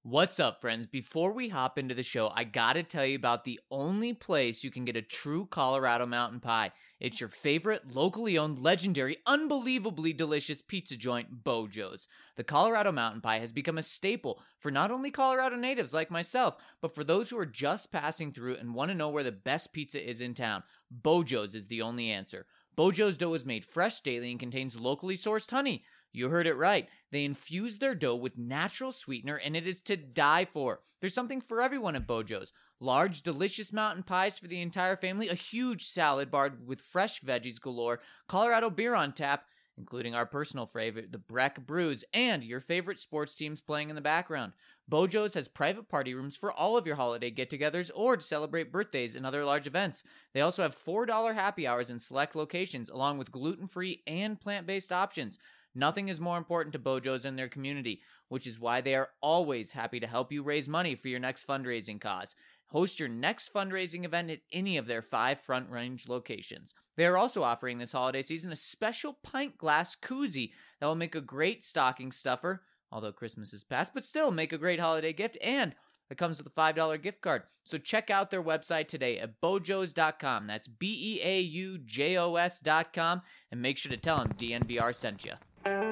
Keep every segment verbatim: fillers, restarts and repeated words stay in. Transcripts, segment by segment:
What's up, friends? Before we hop into the show, I gotta tell you about the only place you can get a true Colorado mountain pie. It's your favorite, locally owned, legendary, unbelievably delicious pizza joint, Bojo's. The Colorado mountain pie has become a staple for not only Colorado natives like myself, but for those who are just passing through and want to know where the best pizza is in town. Bojo's is the only answer. Bojo's dough is made fresh daily and contains locally sourced honey. You heard it right. They infuse their dough with natural sweetener, and it is to die for. There's something for everyone at Bojo's. Large, delicious mountain pies for the entire family, a huge salad bar with fresh veggies galore, Colorado beer on tap, including our personal favorite, the Breck Brews, and your favorite sports teams playing in the background. Bojo's has private party rooms for all of your holiday get-togethers or to celebrate birthdays and other large events. They also have four dollars happy hours in select locations, along with gluten-free and plant-based options. Nothing is more important to Bojo's in their community, which is why they are always happy to help you raise money for your next fundraising cause. Host your next fundraising event at any of their five Front Range locations. They are also offering this holiday season a special pint glass koozie that will make a great stocking stuffer, although Christmas is past, but still make a great holiday gift, and it comes with a five dollars gift card. So check out their website today at bojos dot com. That's B E A U J O S dot com, and make sure to tell them D N V R sent you.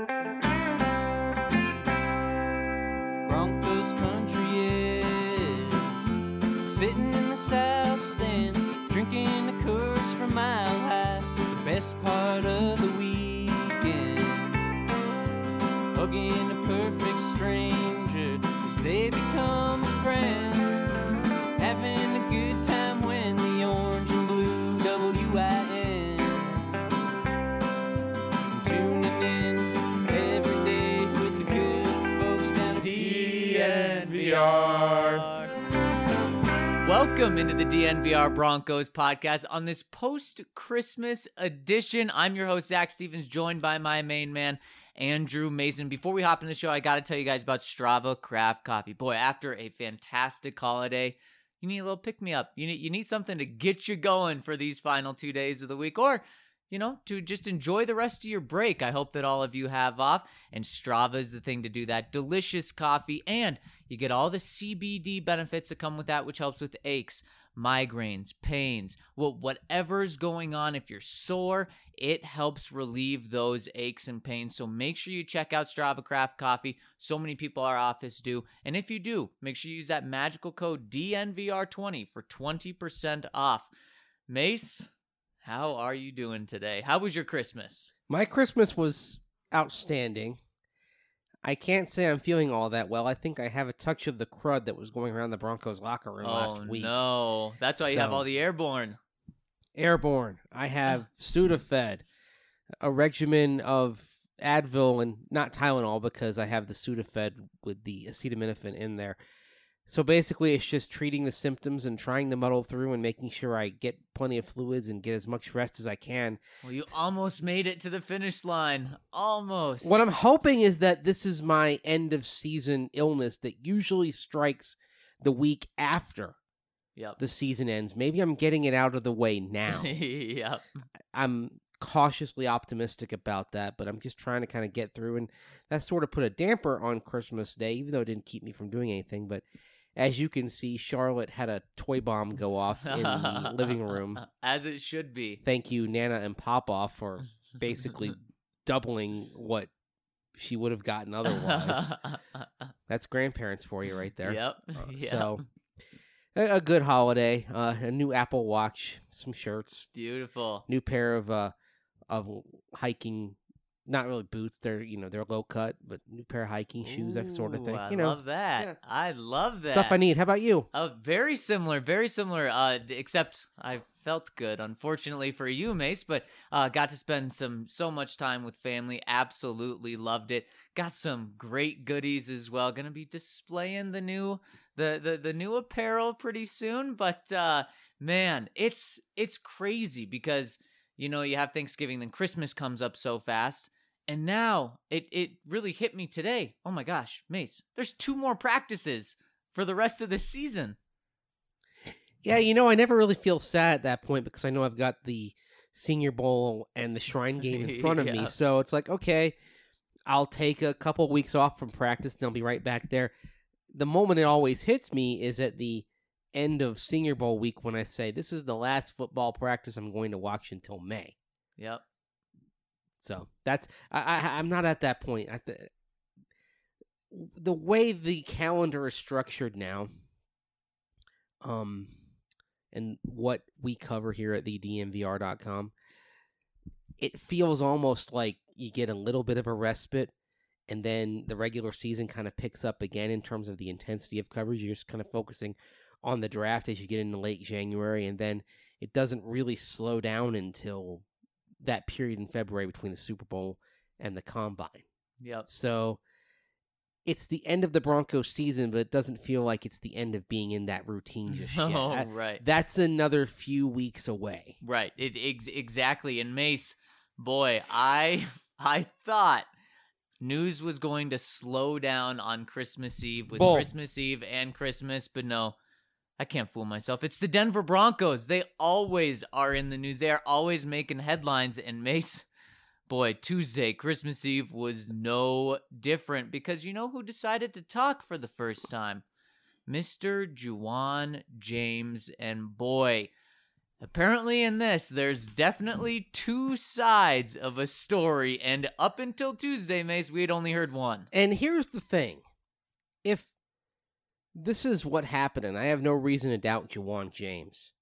Broncos country is sitting in the south stands, drinking the Coors from Mile High. The best part of the weekend, hugging a perfect stranger as they become a friend, having a good time when the orange and blue W I N tuning in every day with the good folks down at D N V R. Welcome into the D N V R Broncos podcast on this post-Christmas edition. I'm your host, Zach Stevens, joined by my main man, Andrew Mason. Before we hop in the show, I got to tell you guys about Strava Craft Coffee. Boy, after a fantastic holiday, you need a little pick-me-up. You need, you need something to get you going for these final two days of the week, or you know, to just enjoy the rest of your break. I hope that all of you have off, and Strava is the thing to do that. Delicious coffee, and you get all the C B D benefits that come with that, which helps with aches, migraines, pains, well, whatever's going on. If you're sore, it helps relieve those aches and pains. So make sure you check out Strava Craft Coffee. So many people our office do. And if you do, make sure you use that magical code D N V R twenty for twenty percent off. Mace, how are you doing today? How was your Christmas? My Christmas was outstanding. I can't say I'm feeling all that well. I think I have a touch of the crud that was going around the Broncos locker room oh, last week. no. That's why you have So- all the airborne. Airborne. I have Sudafed, a regimen of Advil and not Tylenol because I have the Sudafed with the acetaminophen in there. So basically, it's just treating the symptoms and trying to muddle through and making sure I get plenty of fluids and get as much rest as I can. Well, you almost made it to the finish line. Almost. What I'm hoping is that this is my end of season illness that usually strikes the week after Yep. the season ends. Maybe I'm getting it out of the way now. Yep. I'm cautiously optimistic about that, but I'm just trying to kind of get through, and that sort of put a damper on Christmas Day, even though it didn't keep me from doing anything. But as you can see, Charlotte had a toy bomb go off in the living room. As it should be. Thank you, Nana and Papa, for basically doubling what she would have gotten otherwise. That's grandparents for you right there. Yep. Uh, Yep. So, a, a good holiday. Uh, a new Apple Watch, some shirts, Beautiful. new pair of uh of hiking, not really boots. They're you know they're low cut, but new pair of hiking shoes, that sort of Ooh, thing. I You know, love that. yeah. I love that. stuff I need. How about you? Oh, very similar, very similar. Uh, d- except I felt good, unfortunately for you, Mace. But uh, got to spend some so much time with family. Absolutely loved it. Got some great goodies as well. Gonna be displaying the new the the, the new apparel pretty soon. But uh, man, it's it's crazy because you know you have Thanksgiving, then Christmas comes up so fast. And now it, it really hit me today. Oh my gosh, Mace, there's two more practices for the rest of the season. Yeah, you know, I never really feel sad at that point because I know I've got the Senior Bowl and the Shrine Game in front of Yeah. me. So it's like, okay, I'll take a couple weeks off from practice and I'll be right back there. the moment it always hits me is at the end of Senior Bowl week when I say, this is the last football practice I'm going to watch until May. Yep. So that's, I, I, I'm not at that point. At the, the way the calendar is structured now, um, and what we cover here at the D M V R dot com, it feels almost like you get a little bit of a respite, and then the regular season kind of picks up again in terms of the intensity of coverage. You're just kind of focusing on the draft as you get into late January, and then it doesn't really slow down until that period in February between the Super Bowl and the Combine. Yep. So it's the end of the Broncos season, but it doesn't feel like it's the end of being in that routine just yet. Oh, That- right. That's another few weeks away. Right. It ex- exactly. And Mace, boy, I I thought news was going to slow down on Christmas Eve with Bull. Christmas Eve and Christmas, but no. I can't fool myself. It's the Denver Broncos. They always are in the news. They are always making headlines. And Mace, boy, Tuesday, Christmas Eve was no different because you know who decided to talk for the first time? Mister Juwan James. And boy, apparently in this, there's definitely two sides of a story. And up until Tuesday, Mace, we had only heard one. And here's the thing. If this is what happened, and I have no reason to doubt Juwan James,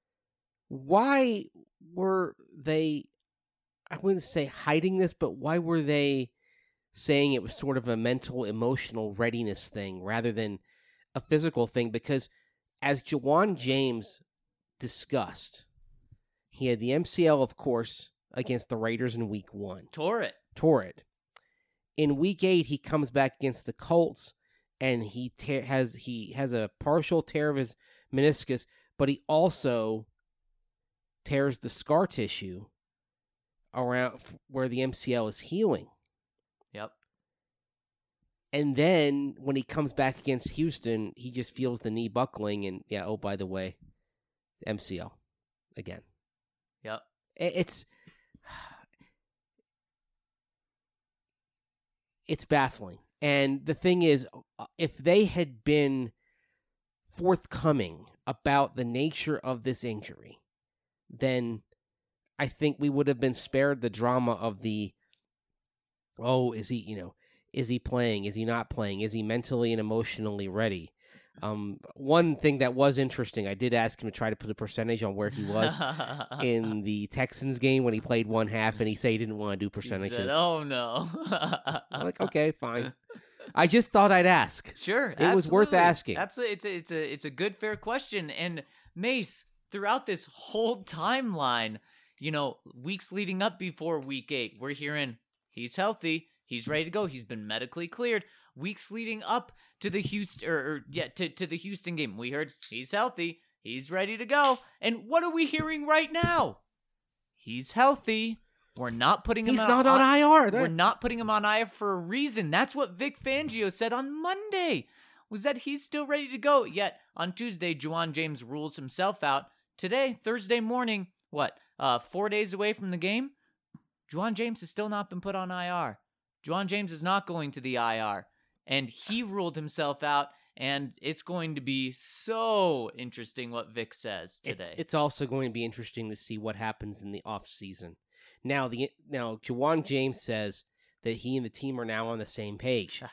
why were they, I wouldn't say hiding this, but why were they saying it was sort of a mental, emotional readiness thing rather than a physical thing? Because as Juwan James discussed, he had the M C L, of course, against the Raiders in week one. Tore it. Tore it. In week eight, he comes back against the Colts, and he te- has he has a partial tear of his meniscus, but he also tears the scar tissue around where the M C L is healing. Yep. And then when he comes back against Houston, he just feels the knee buckling, and yeah, oh, by the way, M C L again. Yep. It- It's it's baffling. And the thing is, if they had been forthcoming about the nature of this injury, then I think we would have been spared the drama of the, oh, is he, you know, is he playing? Is he not playing? Is he mentally and emotionally ready? Um, one thing that was interesting, I did ask him to try to put a percentage on where he was in the Texans game when he played one half, and he said he didn't want to do He percentages. said, oh no. I'm like, okay, fine. I just thought I'd ask. Sure, It was worth absolutely. asking. Absolutely, it's a, it's a it's a good fair question. And Mace, throughout this whole timeline, you know, weeks leading up before week eight, we're hearing he's healthy, he's ready to go, he's been medically cleared. Weeks leading up to the Houston or, or yeah to to the Houston game, we heard he's healthy, he's ready to go. And what are we hearing right now? He's healthy. We're not putting him He's on, not on I R. That- We're not putting him on I R for a reason. That's what Vic Fangio said on Monday, was that he's still ready to go. Yet on Tuesday, Juwan James rules himself out. Today, Thursday morning, what, uh, four days away from the game? Juwan James has still not been put on I R. Juwan James is not going to the I R. And he ruled himself out, and it's going to be so interesting what Vic says today. It's, it's also going to be interesting to see what happens in the off season. Now, the now Juwan James says that he and the team are now on the same page.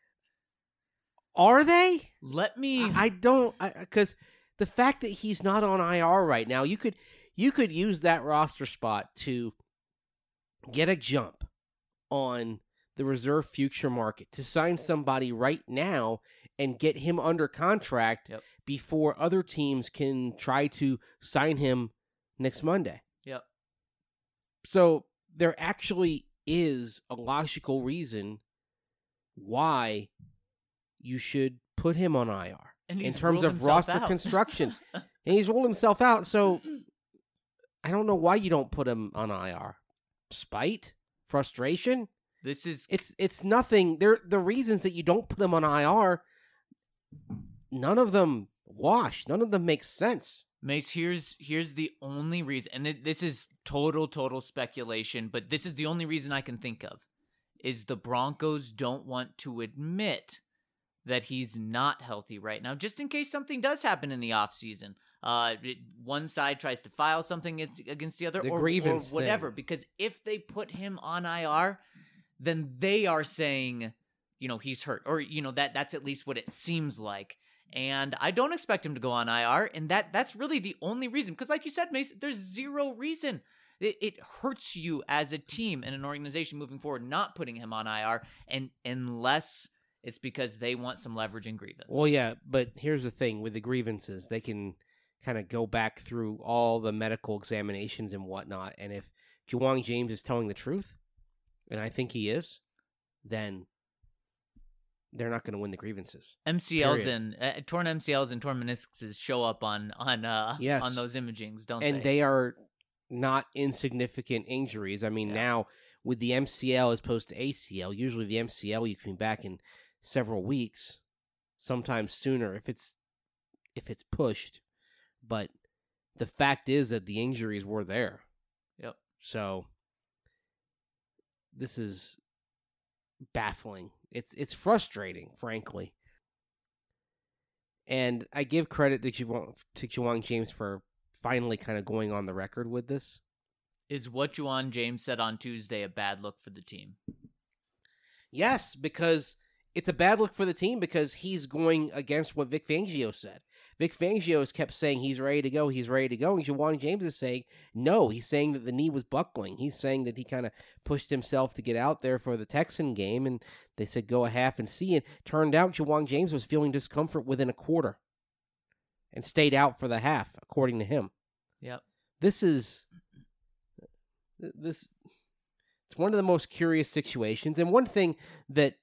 Are they? Let me... I, I don't, because the fact that he's not on I R right now, you could you could use that roster spot to get a jump on the reserve future market, to sign somebody right now and get him under contract Yep. before other teams can try to sign him next Monday. Yep. So there actually is a logical reason why you should put him on I R And in he's terms ruled of himself roster out. construction. And he's ruled himself out, so I don't know why you don't put him on I R. Spite? Frustration? This is... It's it's nothing. There the reasons that you don't put him on I R, none of them wash. None of them make sense. Mace, here's here's the only reason, and it, this is total, total speculation, but this is the only reason I can think of, is the Broncos don't want to admit that he's not healthy right now, just in case something does happen in the offseason. Uh, it- one side tries to file something ag- against the other The or, grievance or whatever. thing. Because if they put him on I R, then they are saying, you know, he's hurt. Or, you know, that that's at least what it seems like. And I don't expect him to go on I R. And that that's really the only reason. Because like you said, Mace, there's zero reason. It, it hurts you as a team and an organization moving forward not putting him on I R, and unless it's because they want some leverage and grievance. Well, yeah, but here's the thing with the grievances, they can kind of go back through all the medical examinations and whatnot, and if Ja'Wuan James is telling the truth, and I think he is, then they're not going to win the grievances. M C Ls Period. and uh, torn M C Ls and torn meniscuses show up on on uh Yes. on those imagings, don't And they? they are not insignificant injuries. I mean, Yeah. now with the M C L as opposed to A C L, usually the M C L you can be back in several weeks, sometimes sooner if it's if it's pushed. But the fact is that the injuries were there. Yep. So this is baffling. It's it's frustrating, frankly. And I give credit to Ja'Wuan, to Ja'Wuan James for finally kind of going on the record with this. Is what Ja'Wuan James said on Tuesday a bad look for the team? Yes, because it's a bad look for the team because he's going against what Vic Fangio said. Vic Fangio has kept saying he's ready to go, he's ready to go, and Ja'Wuan James is saying no. He's saying that the knee was buckling. He's saying that he kind of pushed himself to get out there for the Texan game, and they said go a half and see. And turned out Ja'Wuan James was feeling discomfort within a quarter and stayed out for the half, according to him. Yep. This is this. It's one of the most curious situations, and one thing that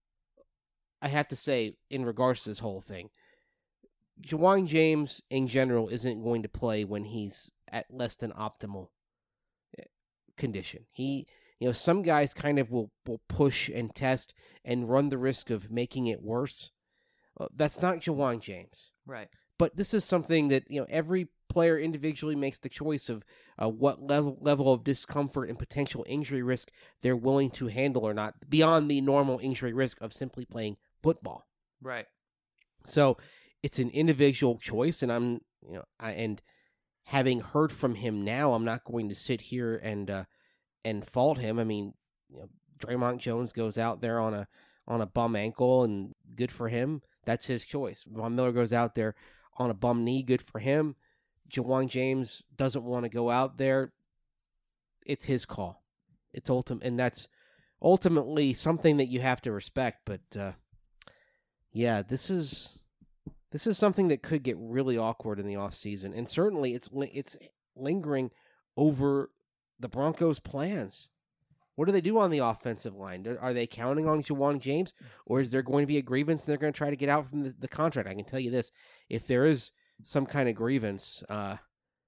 I have to say in regards to this whole thing, Ja'Wuan James in general isn't going to play when he's at less than optimal condition. He, you know, some guys kind of will, will push and test and run the risk of making it worse. Uh, that's not Ja'Wuan James. Right. But this is something that, you know, every player individually makes the choice of uh, what level level of discomfort and potential injury risk they're willing to handle or not, beyond the normal injury risk of simply playing football. Right. So it's an individual choice, and I'm, you know, I, and having heard from him now, I'm not going to sit here and uh, and fault him. I mean, you know, Draymond Jones goes out there on a on a bum ankle, and good for him. That's his choice. Von Miller goes out there on a bum knee, good for him. Ja'Wuan James doesn't want to go out there. It's his call. It's ultimate, and that's ultimately something that you have to respect. But uh, yeah, this is this is something that could get really awkward in the offseason. And certainly it's it's lingering over the Broncos' plans. What do they do on the offensive line? Are they counting on Ja'Wuan James, or is there going to be a grievance and they're going to try to get out from the, the contract? I can tell you this. If there is some kind of grievance, uh,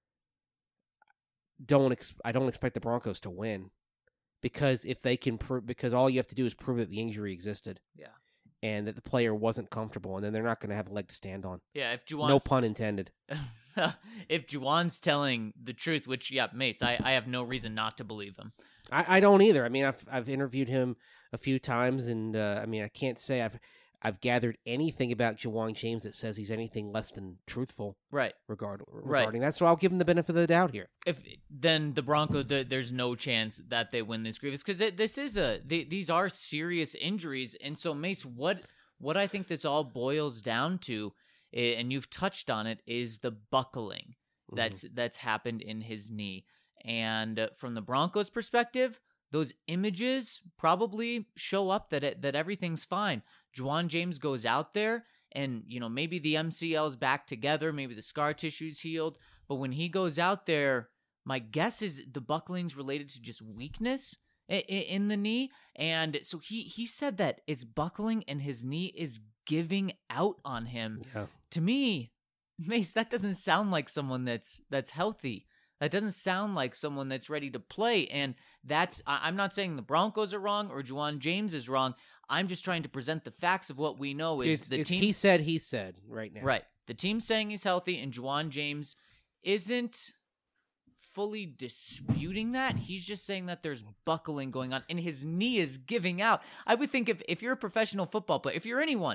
don't ex- I don't expect the Broncos to win, because if they can prove, because all you have to do is prove that the injury existed. Yeah. And that the player wasn't comfortable, and then they're not going to have a leg to stand on. Yeah, if Ja'Wan's, No pun intended. if Ja'Wan's telling the truth, which, yeah, Mace, I, I have no reason not to believe him. I, I don't either. I mean, I've I've interviewed him a few times, and uh, I mean, I can't say I've I've gathered anything about Ja'Wuan James that says he's anything less than truthful Right. regard Right. regarding that. So I'll give him the benefit of the doubt here. If then the Broncos, the, there's no chance that they win this grievance, because this is a they, these are serious injuries, and so Mace, what what I think this all boils down to, eh, and you've touched on it, is the buckling that's that's happened in his knee. And uh, from the Broncos' perspective, those images probably show up that it, that everything's fine. Ja'Wuan James goes out there, and you know maybe the M C L's back together, maybe the scar tissue's healed, but when he goes out there, my guess is the buckling's related to just weakness in, in the knee, and so he he said that it's buckling and his knee is giving out on him. Yeah. To me, Mace, that doesn't sound like someone that's that's healthy. That doesn't sound like someone that's ready to play. And that's, I- I'm not saying the Broncos are wrong or Ja'Wuan James is wrong. I'm just trying to present the facts of what we know is It's, the it's team. he said, he said right now. Right. The team's saying he's healthy, and Ja'Wuan James isn't fully disputing that. He's just saying that there's buckling going on and his knee is giving out. I would think if, if you're a professional football player, if you're anyone,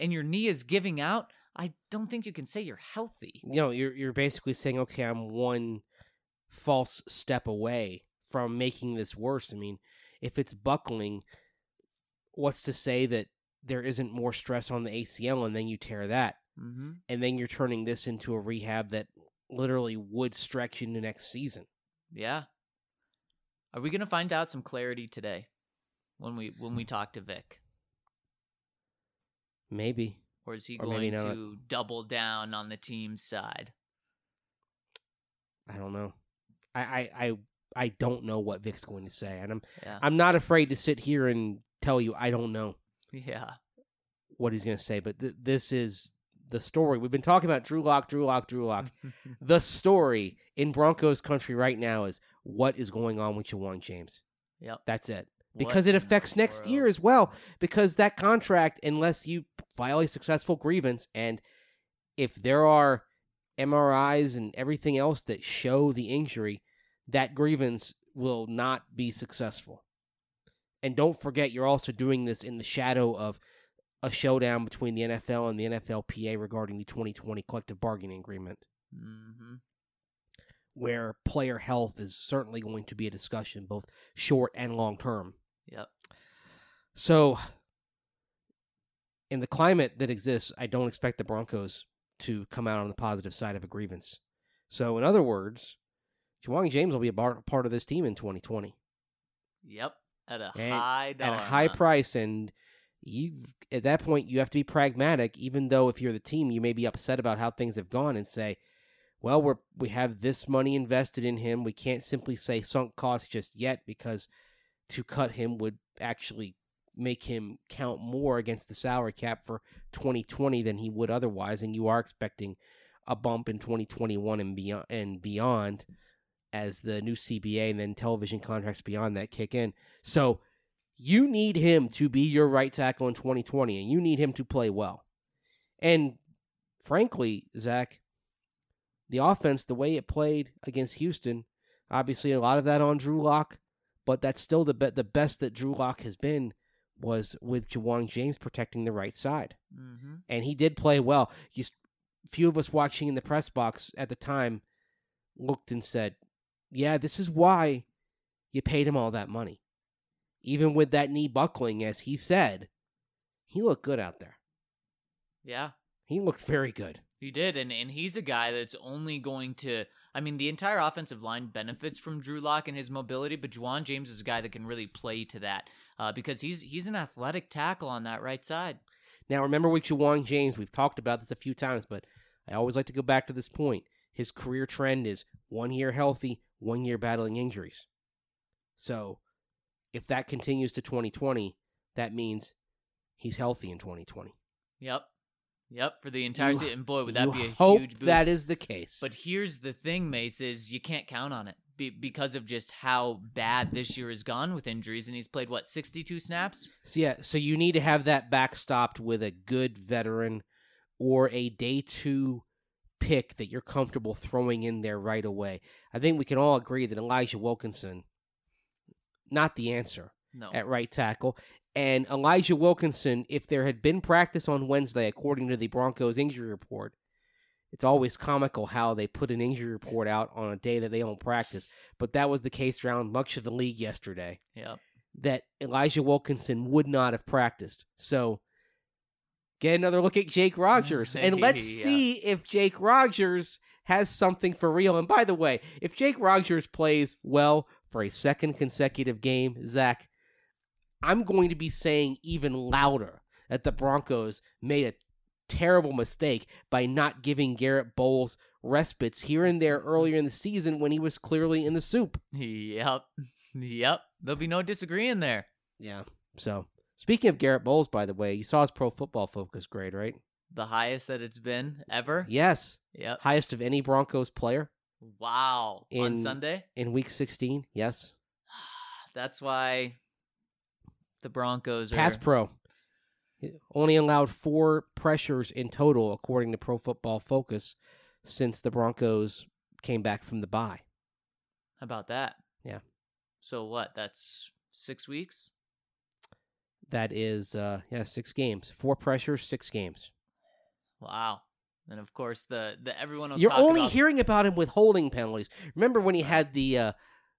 and your knee is giving out, I don't think you can say you're healthy. You know, you're you're basically saying, okay, I'm one false step away from making this worse. I mean, if it's buckling, what's to say that there isn't more stress on the A C L and then you tear that? Mm-hmm. And then you're turning this into a rehab that literally would stretch into next season. Yeah. Are we going to find out some clarity today when we when we talk to Vic? Maybe. Or is he Or going maybe not. to double down on the team's side? I don't know. I, I, I, I don't know what Vic's going to say. And I'm Yeah. I'm not afraid to sit here and tell you I don't know Yeah. what he's going to say. But th- this is the story. We've been talking about Drew Lock, Drew Lock, Drew Lock. The story in Broncos country right now is what is going on with Ja'Wuan James. Yep. That's it. What Because it in the affects next year world? as well. Because that contract, unless you file a successful grievance, and if there are M R Is and everything else that show the injury, that grievance will not be successful. And don't forget, you're also doing this in the shadow of a showdown between the N F L and the N F L P A regarding the twenty twenty collective bargaining agreement, Mm-hmm. where player health is certainly going to be a discussion, both short and long term. Yep. So, in the climate that exists, I don't expect the Broncos to come out on the positive side of a grievance. So, in other words, Ja'Wuan James will be a bar- part of this team in twenty twenty. Yep. At a And- high dollar At a high amount. price, and you at that point, you have to be pragmatic, even though if you're the team, you may be upset about how things have gone and say, well, we're, we have this money invested in him. We can't simply say sunk cost just yet, because to cut him would actually make him count more against the salary cap for twenty twenty than he would otherwise, and you are expecting a bump in twenty twenty-one and beyond, and beyond as the new C B A and then television contracts beyond that kick in. So you need him to be your right tackle in twenty twenty, and you need him to play well. And frankly, Zach, the offense, the way it played against Houston, obviously a lot of that on Drew Lock, but that's still the be- the best that Drew Lock has been was with Ja'Wuan James protecting the right side. Mm-hmm. And he did play well. You, few of us watching in the press box at the time looked and said, yeah, this is why you paid him all that money. Even with that knee buckling, as he said, he looked good out there. Yeah. He looked very good. He did, and, and he's a guy that's only going to... I mean, the entire offensive line benefits from Drew Lock and his mobility, but Ja'Wuan James is a guy that can really play to that uh, because he's he's an athletic tackle on that right side. Now, remember with Ja'Wuan James, we've talked about this a few times, but I always like to go back to this point. His career trend is one year healthy, one year battling injuries. So, if that continues to twenty twenty, that means he's healthy in twenty twenty. Yep. Yep, for the entire You- season. And boy, would that you be a hope huge boost. that is the case. But here's the thing, Mace, is you can't count on it be- because of just how bad this year has gone with injuries. And he's played, what, sixty-two snaps? So yeah, so you need to have that backstopped with a good veteran or a day two pick that you're comfortable throwing in there right away. I think we can all agree that Elijah Wilkinson, not the answer No. at right tackle. And Elijah Wilkinson, if there had been practice on Wednesday, according to the Broncos injury report, it's always comical how they put an injury report out on a day that they don't practice. But that was the case around much of the league yesterday, Yep. that Elijah Wilkinson would not have practiced. So get another look at Jake Rogers, and let's Yeah. see if Jake Rogers has something for real. And by the way, if Jake Rogers plays well for a second consecutive game, Zach, I'm going to be saying even louder that the Broncos made a terrible mistake by not giving Garrett Bowles respites here and there earlier in the season when he was clearly in the soup. Yep. Yep. There'll be no disagreeing there. Yeah. So, speaking of Garrett Bowles, by the way, you saw his Pro Football Focus grade, right? The highest that it's been ever. Yes. Yep. Highest of any Broncos player Wow. On In- Sunday? in Week sixteen. Yes. That's why the Broncos are... Pass Pro. Only allowed four pressures in total, according to Pro Football Focus, since the Broncos came back from the bye. How about that? Yeah. So what? That's six weeks? That is, uh, yeah, six games. Four pressures, six games. Wow. And of course, the, the everyone will You're talk only about... hearing about him with holding penalties. Remember when he had the uh,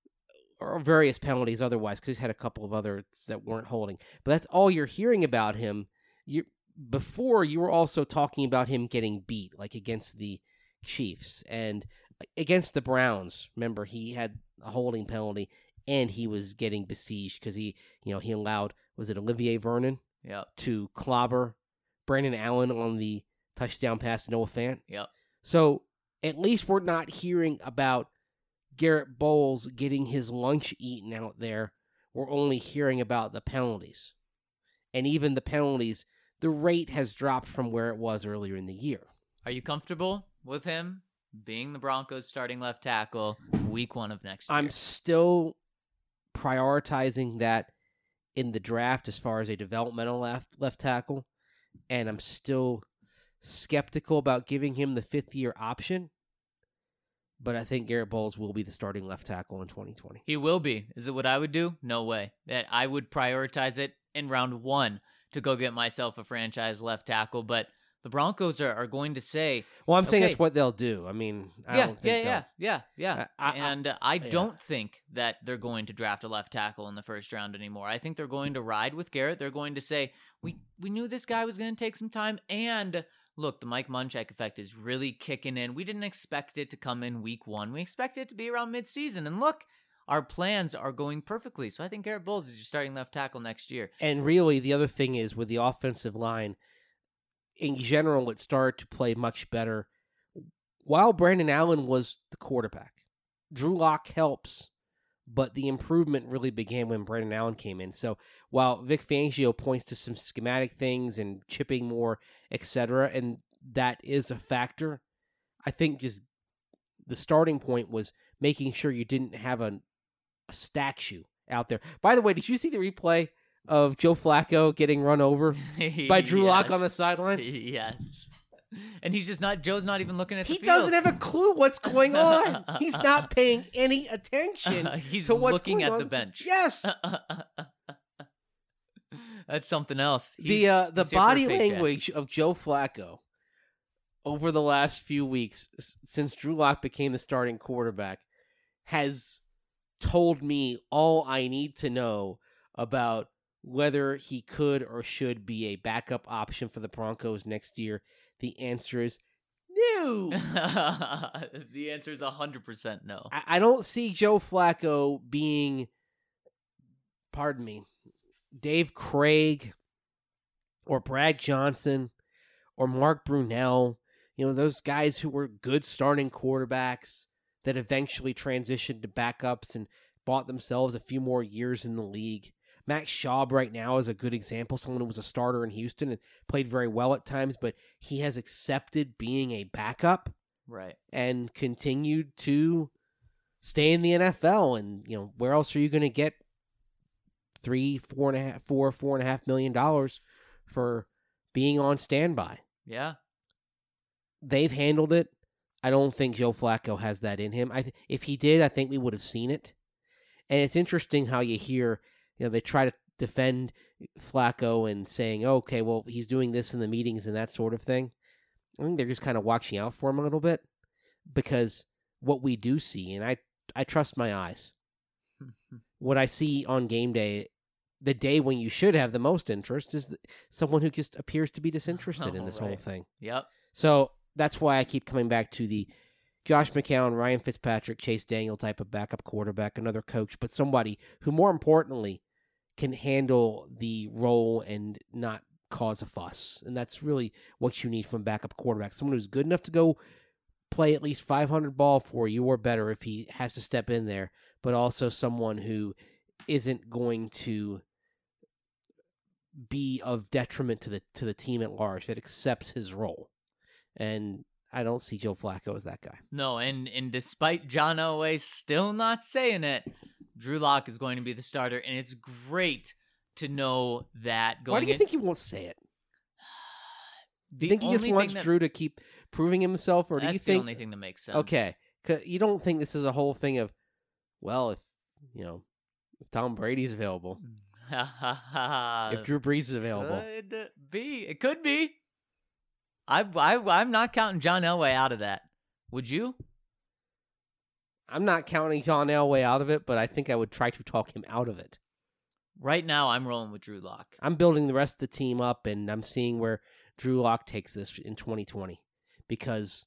or various penalties otherwise, because he's had a couple of others that weren't holding. But that's all you're hearing about him. You Before, you were also talking about him getting beat, like against the Chiefs and against the Browns. Remember, he had a holding penalty, and he was getting besieged because he, you know, he allowed, was it Olivier Vernon? Yep. To clobber Brandon Allen on the touchdown pass to Noah Fant. Yep. So at least we're not hearing about Garrett Bowles getting his lunch eaten out there. We're only hearing about the penalties. And even the penalties, the rate has dropped from where it was earlier in the year. Are you comfortable with him being the Broncos starting left tackle week one of next year? I'm still prioritizing that in the draft as far as a developmental left left tackle, and I'm still skeptical about giving him the fifth year option. But I think Garrett Bowles will be the starting left tackle in twenty twenty. He will be. Is it what I would do? No way. That I would prioritize it in round one to go get myself a franchise left tackle, but the Broncos are, are going to say... Well, I'm saying okay, that's what they'll do. I mean, I yeah, don't think yeah, they'll... yeah, yeah, yeah, I- I- and uh, I yeah. don't think that they're going to draft a left tackle in the first round anymore. I think they're going to ride with Garrett. They're going to say, we, we knew this guy was going to take some time, and... Look, the Mike Munchak effect is really kicking in. We didn't expect it to come in week one. We expected it to be around midseason. And look, our plans are going perfectly. So I think Garrett Bowles is your starting left tackle next year. And really, the other thing is with the offensive line, in general, it started to play much better while Brandon Allen was the quarterback. Drew Lock helps, but the improvement really began when Brandon Allen came in. So while Vic Fangio points to some schematic things and chipping more, et cetera, and that is a factor, I think just the starting point was making sure you didn't have a, a stack shoe out there. By the way, did you see the replay of Joe Flacco getting run over by Drew Lock on the sideline? Yes. And he's just not, Joe's not even looking at the He field. doesn't have a clue what's going on. He's not paying any attention he's to what's looking going at on. the bench. Yes. That's something else. He's, the uh, the he's here for a body paycheck. language of Joe Flacco over the last few weeks, s- since Drew Lock became the starting quarterback, has told me all I need to know about whether he could or should be a backup option for the Broncos next year. The answer is no. The answer is one hundred percent no. I, I don't see Joe Flacco being, pardon me, Dave Craig or Brad Johnson or Mark Brunell, you know, those guys who were good starting quarterbacks that eventually transitioned to backups and bought themselves a few more years in the league. Max Schaub right now is a good example, someone who was a starter in Houston and played very well at times, but he has accepted being a backup Right. and continued to stay in the N F L. And, you know, where else are you going to get three, four and a half, four, four and a half million dollars for being on standby? Yeah. They've handled it. I don't think Joe Flacco has that in him. I th- if he did, I think we would have seen it. And it's interesting how you hear, you know, they try to defend Flacco and saying, oh, okay, well, he's doing this in the meetings and that sort of thing. I think they're just kind of watching out for him a little bit because what we do see, and I, I trust my eyes, what I see on game day, the day when you should have the most interest, is someone who just appears to be disinterested Oh, in this right. whole thing. Yep. So that's why I keep coming back to the Josh McCown, Ryan Fitzpatrick, Chase Daniel type of backup quarterback, another coach, but somebody who, more importantly, can handle the role and not cause a fuss. And that's really what you need from backup quarterback. Someone who's good enough to go play at least five hundred ball for you or better if he has to step in there, but also someone who isn't going to be of detriment to the to the team at large, that accepts his role. And I don't see Joe Flacco as that guy. No, and, and despite John Elway still not saying it, Drew Lock is going to be the starter, and it's great to know that going Why do you in- think he won't say it? Do The you think he just only wants thing that- Drew to keep proving himself, or do That's you the think? only thing that makes sense. Okay, 'cause you don't think this is a whole thing of, well, if you know, if Tom Brady's available, if Drew Brees is available. Could be. It could be. I, I, I'm not counting John Elway out of that. Would you? I'm not counting John Elway out of it, but I think I would try to talk him out of it. Right now, I'm rolling with Drew Lock. I'm building the rest of the team up, and I'm seeing where Drew Lock takes this in twenty twenty. Because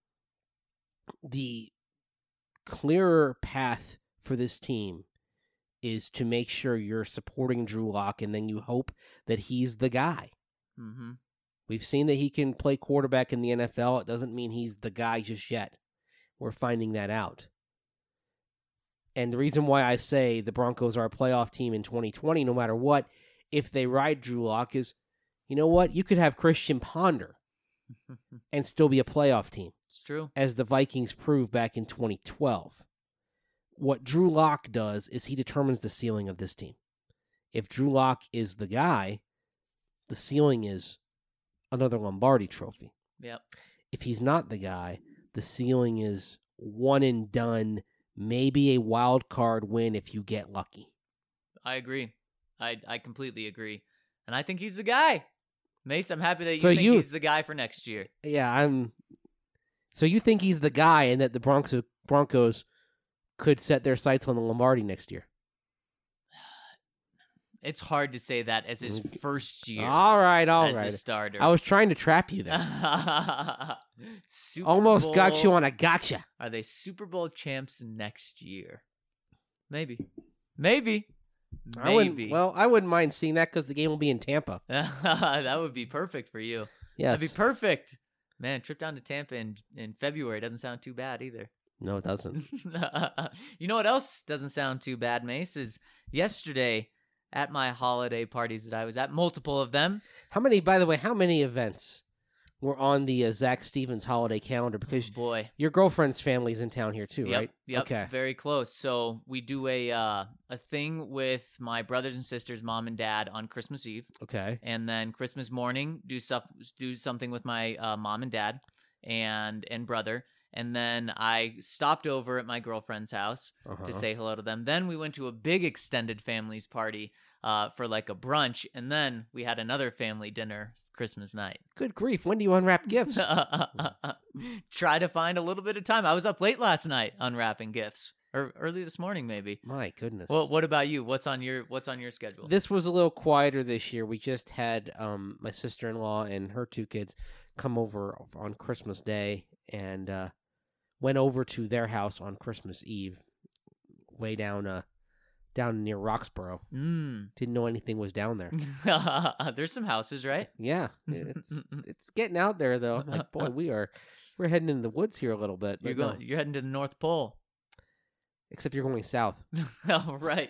the clearer path for this team is to make sure you're supporting Drew Lock, and then you hope that he's the guy. Mm-hmm. We've seen that he can play quarterback in the N F L. It doesn't mean he's the guy just yet. We're finding that out. And the reason why I say the Broncos are a playoff team in twenty twenty, no matter what, if they ride Drew Lock, is, you know what? You could have Christian Ponder and still be a playoff team. It's true. As the Vikings proved back in twenty twelve. What Drew Lock does is he determines the ceiling of this team. If Drew Lock is the guy, the ceiling is another Lombardi trophy. Yep. If he's not the guy, the ceiling is one and done, maybe a wild card win if you get lucky. I agree. I I completely agree. And I think he's the guy. Mace, I'm happy that you So think you- he's the guy for next year. Yeah, I'm. So you think he's the guy, and that the Broncos Broncos could set their sights on the Lombardi next year? It's hard to say that as his first year All right, all as right. a starter. I was trying to trap you there. Super Almost got Bowl- you on a gotcha. Are they Super Bowl champs next year? Maybe. Maybe. I wouldn't, Maybe. well, I wouldn't mind seeing that because the game will be in Tampa. That would be perfect for you. Yes. That'd be perfect. Man, trip down to Tampa in, in February doesn't sound too bad either. No, it doesn't. You know what else doesn't sound too bad, Mace, is yesterday at my holiday parties that I was at, multiple of them. How many, by the way, how many events were on the uh, Zach Stevens holiday calendar? Because Boy. your girlfriend's family's in town here too, Yep, right? Yep, Okay. very close. So we do a uh, a thing with my brothers and sisters, mom and dad, on Christmas Eve, Okay. and then Christmas morning do stuff, do something with my uh, mom and dad and and brother, and then I stopped over at my girlfriend's house Uh-huh. to say hello to them. Then we went to a big extended families party uh, for like a brunch, and then we had another family dinner Christmas night. Good grief. When do you unwrap gifts? Try to find a little bit of time. I was up late last night unwrapping gifts, or early this morning maybe. My goodness. Well, what about you? What's on your What's on your schedule? This was a little quieter this year. We just had um, my sister-in-law and her two kids come over on Christmas Day and uh, went over to their house on Christmas Eve, way down uh, down near Roxborough. Mm. Didn't know anything was down there. There's some houses, right? Yeah, it's it's getting out there though. I'm like, boy, we are we're heading into the woods here a little bit. You're but no. going. You're heading to the North Pole. Except you're going south. Oh, right.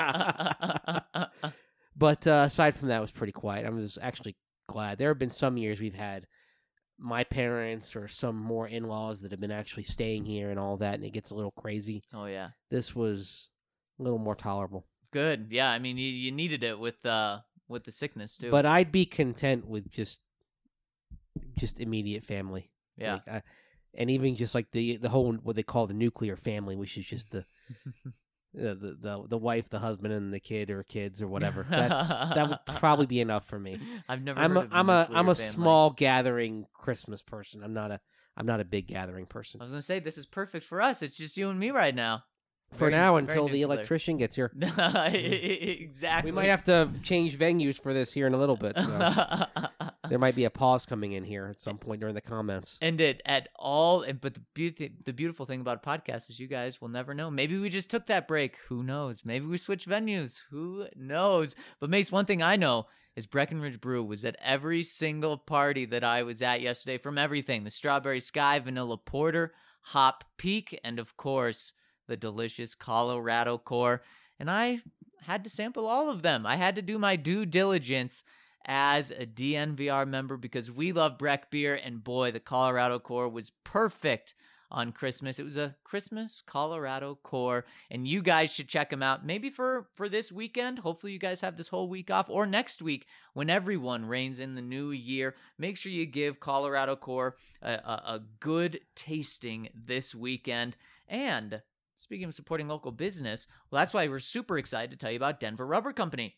But uh, aside from that, it was pretty quiet. I was actually glad. There have been some years we've had my parents or some more in-laws that have been actually staying here and all that, and it gets a little crazy. Oh yeah. This was a little more tolerable. Good. Yeah. I mean, you, you needed it with uh with the sickness too. But I'd be content with just just immediate family. yeah. Like, I, and even just like the the whole what they call the nuclear family, which is just the the, the the the wife, the husband, and the kid or kids or whatever. That's that would probably be enough for me. I've never. I'm heard a of the I'm a nuclear I'm a family. small gathering Christmas person. I'm not a I'm not a big gathering person. I was gonna say this is perfect for us. It's just you and me right now. For Very- now, very until the nuclear. electrician gets here, Exactly. we might have to change venues for this here in a little bit. So. There might be a pause coming in here at some point during the comments. And it at all, and but the beauty, the beautiful thing about podcasts is you guys will never know. Maybe we just took that break. Who knows? Maybe we switched venues. Who knows? But Mace, one thing I know is Breckenridge Brew was at every single party that I was at yesterday. From everything: the Strawberry Sky Vanilla Porter, Hop Peak, and of course the delicious Colorado Core. And I had to sample all of them. I had to do my due diligence as a D N V R member because we love Breck beer, and boy, the Colorado Core was perfect on Christmas. It was a Christmas Colorado Core, and you guys should check them out. Maybe for for this weekend. Hopefully you guys have this whole week off, or next week when everyone reigns in the new year. Make sure you give Colorado Core a, a, a good tasting this weekend. And speaking of supporting local business, well, that's why we're super excited to tell you about Denver Rubber Company.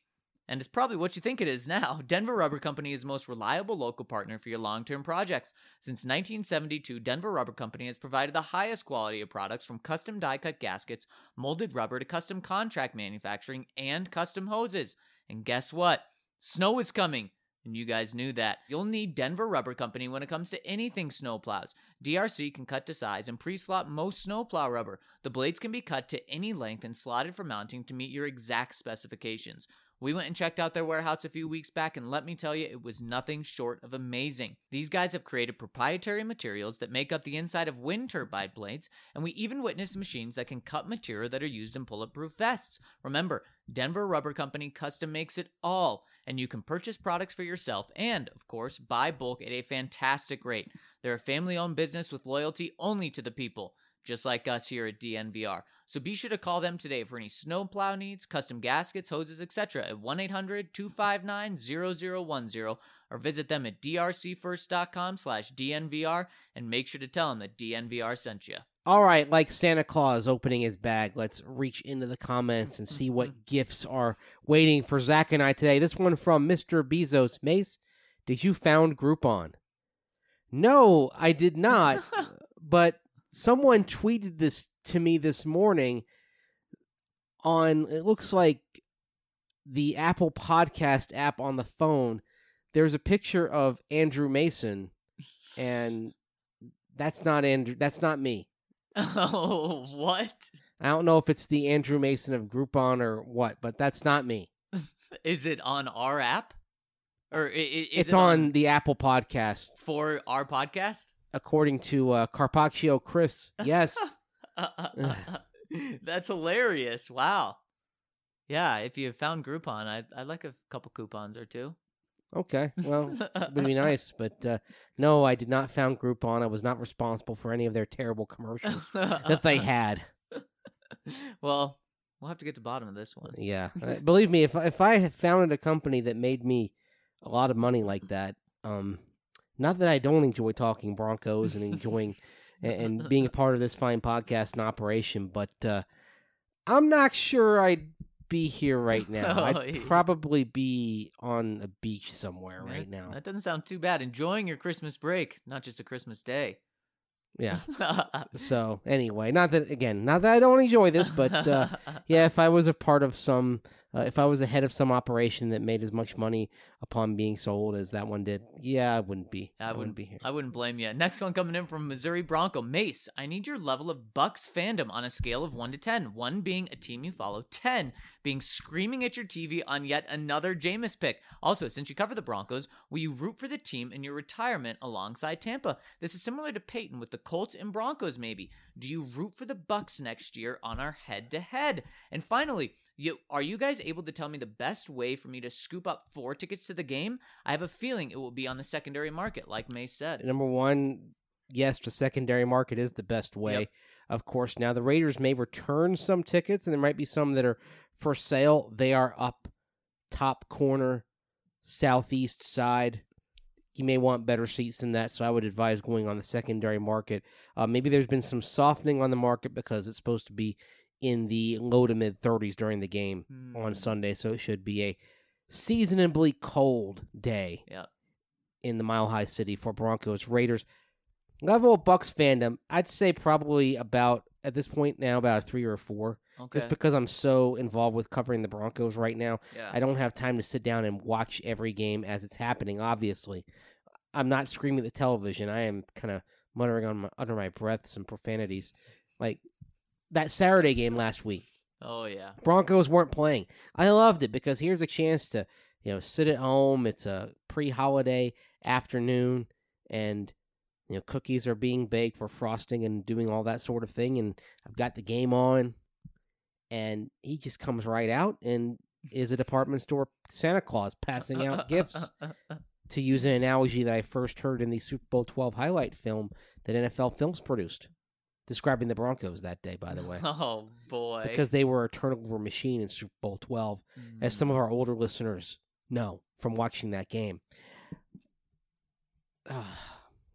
And it's probably what you think it is now. Denver Rubber Company is the most reliable local partner for your long-term projects. Since nineteen seventy-two, Denver Rubber Company has provided the highest quality of products from custom die-cut gaskets, molded rubber to custom contract manufacturing, and custom hoses. And guess what? Snow is coming. And you guys knew that. You'll need Denver Rubber Company when it comes to anything snowplows. D R C can cut to size and pre-slot most snowplow rubber. The blades can be cut to any length and slotted for mounting to meet your exact specifications. We went and checked out their warehouse a few weeks back, and let me tell you, it was nothing short of amazing. These guys have created proprietary materials that make up the inside of wind turbine blades, and we even witnessed machines that can cut material that are used in bulletproof vests. Remember, Denver Rubber Company custom makes it all, and you can purchase products for yourself and, of course, buy bulk at a fantastic rate. They're a family-owned business with loyalty only to the people, just like us here at D N V R. So be sure to call them today for any snowplow needs, custom gaskets, hoses, et cetera at one eight hundred two five nine zero zero one zero or visit them at d r c first dot com slash D N V R and make sure to tell them that D N V R sent you. All right, like Santa Claus opening his bag, let's reach into the comments and see what gifts are waiting for Zach and I today. This one from Mister Bezos. Mace, did you found Groupon? No, I did not, but someone tweeted this to me this morning on, it looks like the Apple Podcast app on the phone. There's a picture of Andrew Mason, and that's not Andrew. That's not me. Oh, what? I don't know if it's the Andrew Mason of Groupon or what, but that's not me. Is it on our app? Or is it's it on, on the Apple Podcast. For our podcast? According to uh, Carpaccio Chris, yes. That's hilarious. Wow. Yeah, if you found Groupon, I'd, I'd like a couple coupons or two. Okay, well, it would be nice, but uh, no, I did not found Groupon. I was not responsible for any of their terrible commercials that they had. Well, we'll have to get to the bottom of this one. Yeah, uh, believe me, if if I had founded a company that made me a lot of money like that, um, not that I don't enjoy talking Broncos and enjoying and, and being a part of this fine podcast and operation, but uh, I'm not sure I'd be here right now. Oh, I'd yeah. probably be on a beach somewhere Yeah, right now. That doesn't sound too bad. Enjoying your Christmas break, not just a Christmas day. Yeah. So anyway, not that again, not that I don't enjoy this, but uh, yeah, if I was a part of some, uh, if I was the head of some operation that made as much money upon being sold as that one did, yeah, I wouldn't be. I, I wouldn't wouldn't be here. I wouldn't blame you. Next one coming in from Missouri Bronco. Mace, I need your level of Bucks fandom on a scale of one to ten. one being a team you follow, ten being screaming at your T V on yet another Jameis pick. Also, since you cover the Broncos, will you root for the team in your retirement alongside Tampa? This is similar to Peyton with the Colts and Broncos maybe. Do you root for the Bucks next year on our head-to-head? And finally, You, are you guys able to tell me the best way for me to scoop up four tickets to the game? I have a feeling it will be on the secondary market, like May said. Number one, yes, the secondary market is the best way. Yep. Of course, now the Raiders may return some tickets, and there might be some that are for sale. They are up top corner, southeast side. You may want better seats than that, so I would advise going on the secondary market. Uh, maybe there's been some softening on the market because it's supposed to be in the low to mid thirties during the game Hmm. on Sunday, so it should be a seasonably cold day Yep. in the Mile High City for Broncos Raiders. Level of Bucks fandom, I'd say probably about, at this point now, about a three or a four. Okay. Just because I'm so involved with covering the Broncos right now, Yeah. I don't have time to sit down and watch every game as it's happening, obviously. I'm not screaming at the television. I am kind of muttering on my, under my breath some profanities. Like that Saturday game last week. Oh, yeah. Broncos weren't playing. I loved it because here's a chance to, you know, sit at home. It's a pre-holiday afternoon, and you know, cookies are being baked. We're frosting and doing all that sort of thing, and I've got the game on, and he just comes right out and is a department store Santa Claus passing out gifts. To use an analogy that I first heard in the Super Bowl twelve highlight film that N F L Films produced, describing the Broncos that day, by the way. Oh, boy. Because they were a turnover machine in Super Bowl twelve, Mm. as some of our older listeners know from watching that game.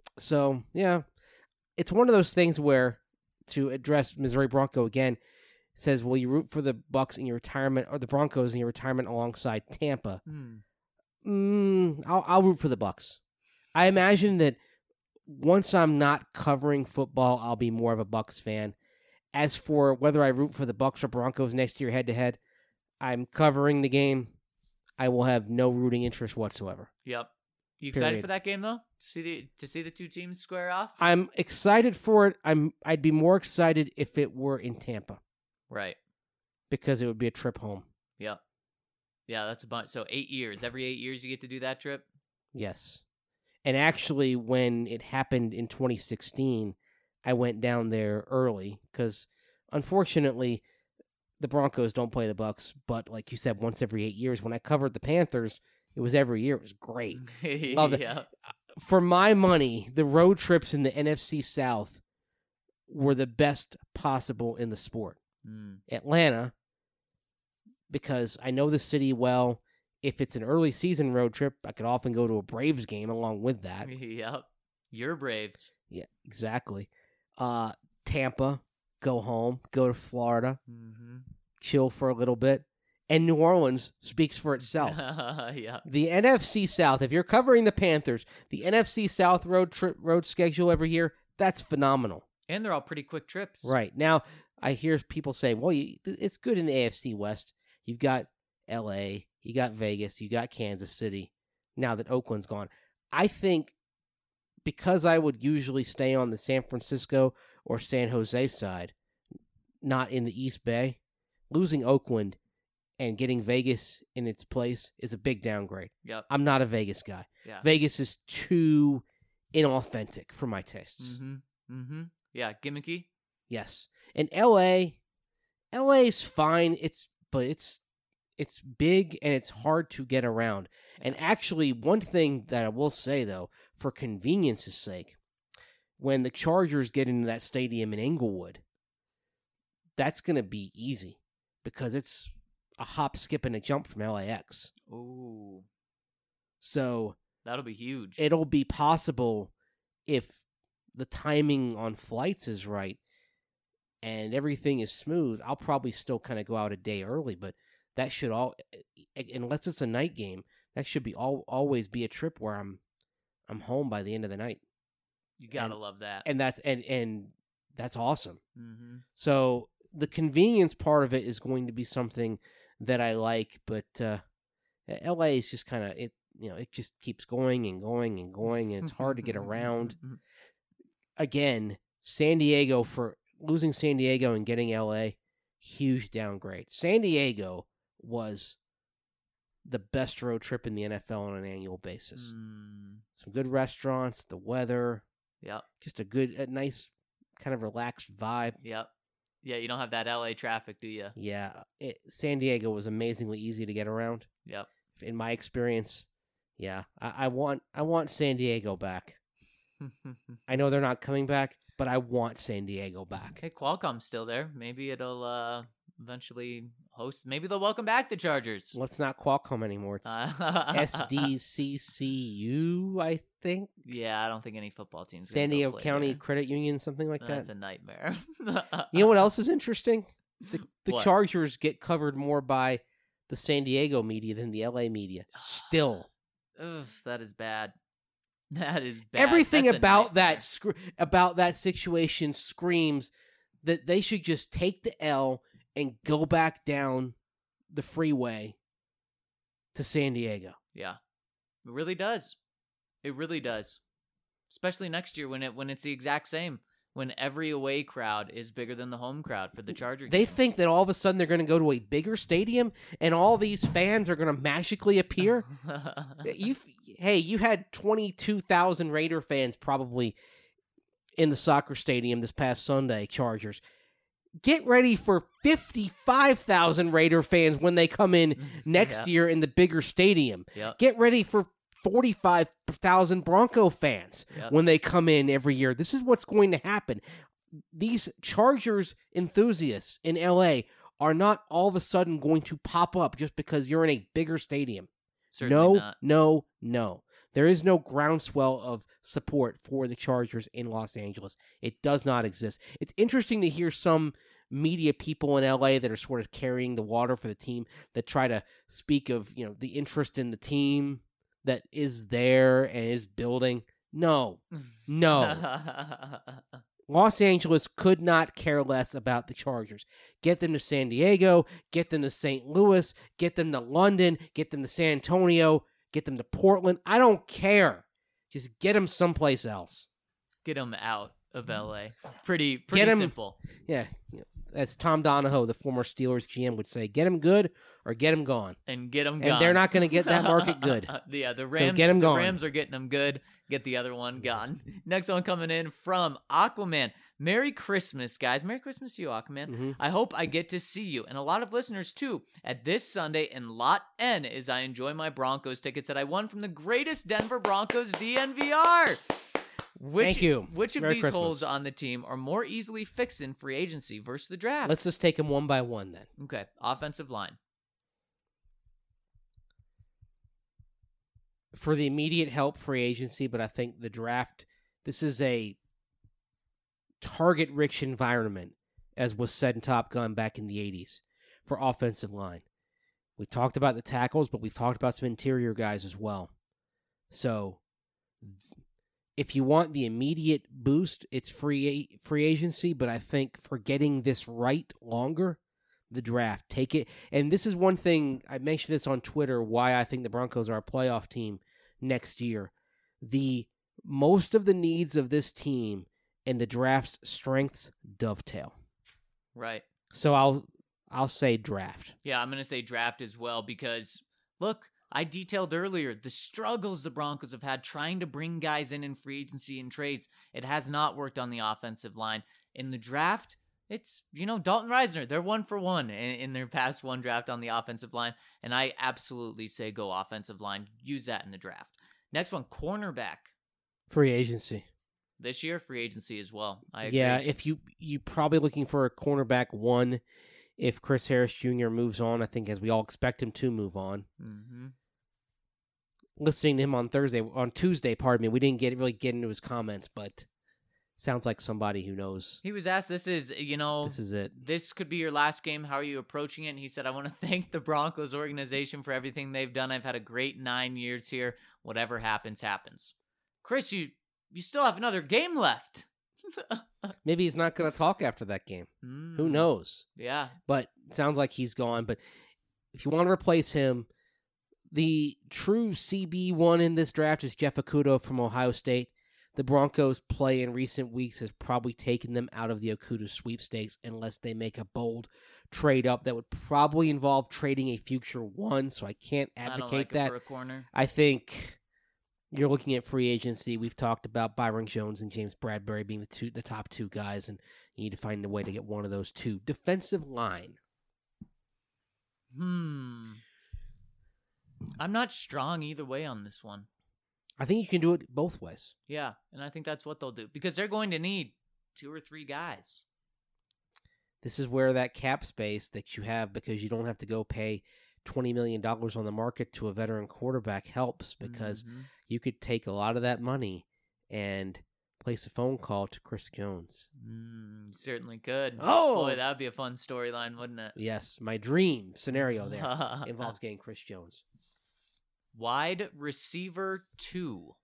So, yeah, it's one of those things where, to address Missouri Bronco again, says, "Will you root for the Bucks in your retirement or the Broncos in your retirement alongside Tampa?" Hmm. Mm, I'll, I'll root for the Bucks. I imagine that once I'm not covering football, I'll be more of a Bucks fan. As for whether I root for the Bucks or Broncos next year head to head, I'm covering the game. I will have no rooting interest whatsoever. Yep. You excited Period. for that game though? To see the to see the two teams square off? I'm excited for it. I'm I'd be more excited if it were in Tampa Right. because it would be a trip home. Yep. Yeah, that's a bunch. So eight years. Every eight years you get to do that trip? Yes. And actually, when it happened in twenty sixteen, I went down there early because, unfortunately, the Broncos don't play the Bucks. But like you said, once every eight years. When I covered the Panthers, it was every year. It was great. Love it. Yeah. For my money, the road trips in the N F C South were the best possible in the sport. Mm. Atlanta, because I know the city well. If it's an early season road trip, I could often go to a Braves game along with that. Yep. Your Braves. Yeah, exactly. Uh, Tampa, go home, go to Florida, Mm-hmm. chill for a little bit. And New Orleans speaks for itself. Yeah. The N F C South, if you're covering the Panthers, the N F C South road trip road schedule every year, that's phenomenal. And they're all pretty quick trips. Right. Now, I hear people say, well, you, it's good in the A F C West. You've got L A, you got Vegas, you got Kansas City, now that Oakland's gone. I think because I would usually stay on the San Francisco or San Jose side, not in the East Bay, losing Oakland and getting Vegas in its place is a big downgrade. Yep. I'm not a Vegas guy. Yeah. Vegas is too inauthentic for my tastes. Mm-hmm. Mm-hmm. Yeah. Gimmicky. Yes. And L A, L A's fine. It's but it's it's big and it's hard to get around. And actually, one thing that I will say though, for convenience's sake, when the Chargers get into that stadium in Inglewood, that's going to be easy because it's a hop, skip, and a jump from L A X. Ooh. So That'll be huge. it'll be possible if the timing on flights is right and everything is smooth. I'll probably still kind of go out a day early, but that should all, unless it's a night game, that should be all always be a trip where I'm I'm home by the end of the night. You gotta and- love that. And that's and and that's awesome. Mm-hmm. So the convenience part of it is going to be something that I like, but uh, L A is just kind of it. You know, it just keeps going and going and going, and it's hard to get around. Again, San Diego for losing San Diego and getting L A, huge downgrade. San Diego was the best road trip in the N F L on an annual basis. Mm. Some good restaurants, the weather, Yep. just a good, a nice kind of relaxed vibe. Yep. Yeah, you don't have that L A traffic, do you? Yeah, it, San Diego was amazingly easy to get around. Yep. In my experience, yeah, I, I want I want San Diego back. I know they're not coming back, but I want San Diego back. Hey, Qualcomm's still there. Maybe it'll uh, eventually host. Maybe they'll welcome back the Chargers. Well, it's not Qualcomm anymore. It's Uh, S D C C U, I think. Yeah, I don't think any football teams. San Diego County Credit Union, something like That's that. a nightmare. You know what else is interesting? The, the What? Chargers get covered more by the San Diego media than the L A media. Still. Ugh, that is bad. That is bad. Everything That's a about nightmare. that sc- about that situation screams that they should just take the L and go back down the freeway to San Diego. Yeah, it really does. It really does. Especially next year when it when it's the exact same. When every away crowd is bigger than the home crowd for the Charger They games. think that all of a sudden they're going to go to a bigger stadium and all these fans are going to magically appear. you, hey, you had twenty-two thousand Raider fans probably in the soccer stadium this past Sunday, Chargers. Get ready for fifty-five thousand Raider fans when they come in next Yeah. year in the bigger stadium. Yep. Get ready for forty-five thousand Bronco fans Yep. when they come in every year. This is what's going to happen. These Chargers enthusiasts in L A are not all of a sudden going to pop up just because you're in a bigger stadium. Certainly no, not. no, no. There is no groundswell of support for the Chargers in Los Angeles. It does not exist. It's interesting to hear some media people in L A that are sort of carrying the water for the team that try to speak of, you know, the interest in the team that is there and is building. No, no. Los Angeles could not care less about the Chargers. Get them to San Diego, get them to Saint Louis, get them to London, get them to San Antonio, get them to Portland. I don't care. Just get them someplace else. Get them out of L A. Pretty, pretty Get 'em- simple. Yeah, as Tom Donahoe, the former Steelers G M, would say, get them good or get them gone. And get them And gone. they're not going to get that market good. Yeah, the Rams, get 'em the gone. Rams are getting them good. Get the other one gone. Next one coming in from Aquaman. Merry Christmas, guys. Merry Christmas to you, Aquaman. Mhm. I hope I get to see you, and a lot of listeners too, at this Sunday in Lot N as I enjoy my Broncos tickets that I won from the greatest Denver Broncos D N V R. Which, Thank you. Which of Merry these Christmas. holes on the team are more easily fixed in free agency versus the draft? Let's just take them one by one then. Okay, offensive line. For the immediate help, free agency, but I think the draft, this is a target-rich environment, as was said in Top Gun back in the eighties, for offensive line. We talked about the tackles, but we've talked about some interior guys as well. So, if you want the immediate boost, it's free free agency, but I think for getting this right longer, the draft, take it. And this is one thing, I mentioned this on Twitter, why I think the Broncos are a playoff team next year. The most of the needs of this team and the draft's strengths dovetail. Right. So I'll I'll say draft. Yeah, I'm going to say draft as well because, look, I detailed earlier the struggles the Broncos have had trying to bring guys in in free agency and trades. It has not worked on the offensive line. In the draft, it's, you know, Dalton Reisner. They're one for one in, in their past one draft on the offensive line, and I absolutely say go offensive line. Use that in the draft. Next one, cornerback. Free agency. This year, free agency as well. I agree. Yeah, if you you probably looking for a cornerback one if Chris Harris Junior moves on, I think as we all expect him to move on. Mm-hmm. Listening to him on Thursday, on Tuesday, pardon me, we didn't get really get into his comments, but sounds like somebody who knows. He was asked, this is, you know, This is it. this could be your last game. How are you approaching it? And he said, I want to thank the Broncos organization for everything they've done. I've had a great nine years here. Whatever happens, happens. Chris, you you still have another game left. Maybe he's not going to talk after that game. Mm, Who knows? Yeah. But it sounds like he's gone. But if you want to replace him, the true C B one in this draft is Jeff Okudah from Ohio State. The Broncos' play in recent weeks has probably taken them out of the Okudah sweepstakes unless they make a bold trade up that would probably involve trading a future one, so I can't I don't advocate like it that. for a corner. I think you're looking at free agency. We've talked about Byron Jones and James Bradbury being the two, the top two guys, and you need to find a way to get one of those two. Defensive line. Hmm. I'm not strong either way on this one. I think you can do it both ways. Yeah, and I think that's what they'll do because they're going to need two or three guys. This is where that cap space that you have, because you don't have to go pay twenty million dollars on the market to a veteran quarterback, helps, because Mhm. you could take a lot of that money and place a phone call to Chris Jones. Mm, you certainly could. Oh! Boy, that would be a fun storyline, wouldn't it? Yes, my dream scenario there involves getting Chris Jones. Wide receiver two.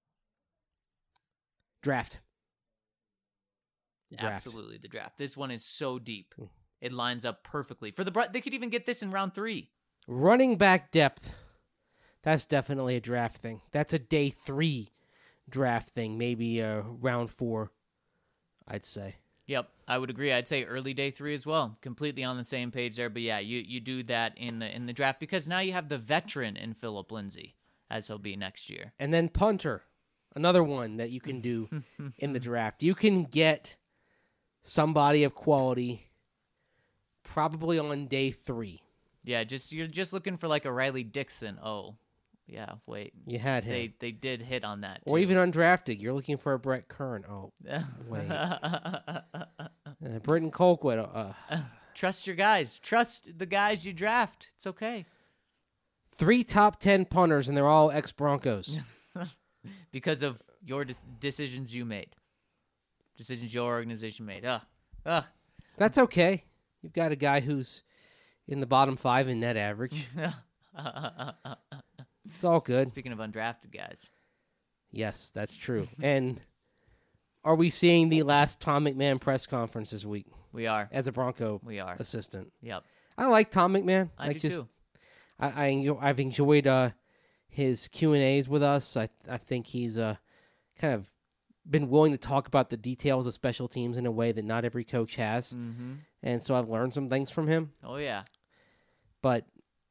Draft. Draft. Absolutely, the draft. This one is so deep. Mm. It lines up perfectly. For the Bro- they could even get this in round three. Running back depth. That's definitely a draft thing. That's a day three draft thing. Maybe uh, round four, I'd say. Yep, I would agree. I'd say early day three as well. Completely on the same page there. But yeah, you, you do that in the in the draft because now you have the veteran in Phillip Lindsay, as he'll be next year. And then punter. Another one that you can do in the draft. You can get somebody of quality probably on day three. Yeah, just you're just looking for like a Riley Dixon. Oh, yeah, wait. You had him. They they did hit on that. Or too. even undrafted. You're looking for a Brett Kern. Oh, wait. uh, Britton Colquitt. Uh, Trust your guys. Trust the guys you draft. It's okay. three top ten punters, and they're all ex-Broncos. Because of your de- decisions you made. Decisions your organization made. Ugh. Ugh. That's okay. You've got a guy who's in the bottom five in net average. It's all good. Speaking of undrafted guys. Yes, that's true. And are we seeing the last Tom McMahon press conference this week We are. as a Bronco We are. assistant? Yep. I like Tom McMahon. I like do just, too. I, I enjo- I've enjoyed uh, his Q and A's with us. I I think he's uh, kind of been willing to talk about the details of special teams in a way that not every coach has. Mm-hmm. And so I've learned some things from him. Oh, yeah. But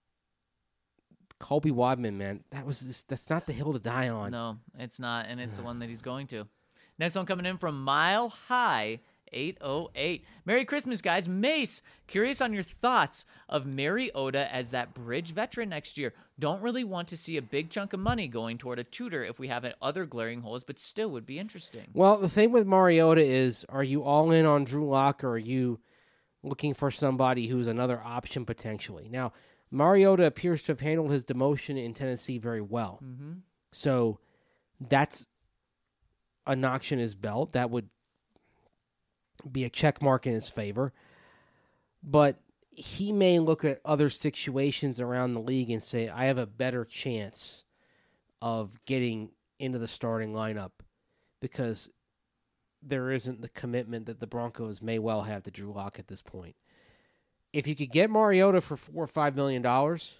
Colby Wadman, man, that was just, that's not the hill to die on. No, it's not, and it's the one that he's going to. Next one coming in from Mile High eight oh eight. Merry Christmas, guys. Mace, curious on your thoughts of Mariota as that bridge veteran next year. Don't really want to see a big chunk of money going toward a tutor if we have other glaring holes, but still would be interesting. Well, the thing with Mariota is, are you all in on Drew Lock, or are you looking for somebody who's another option potentially? Now, Mariota appears to have handled his demotion in Tennessee very well. Mm-hmm. So that's a notch in his belt. That would be a check mark in his favor. But he may look at other situations around the league and say, I have a better chance of getting into the starting lineup because there isn't the commitment that the Broncos may well have to Drew Lock at this point. If you could get Mariota for four or five million dollars,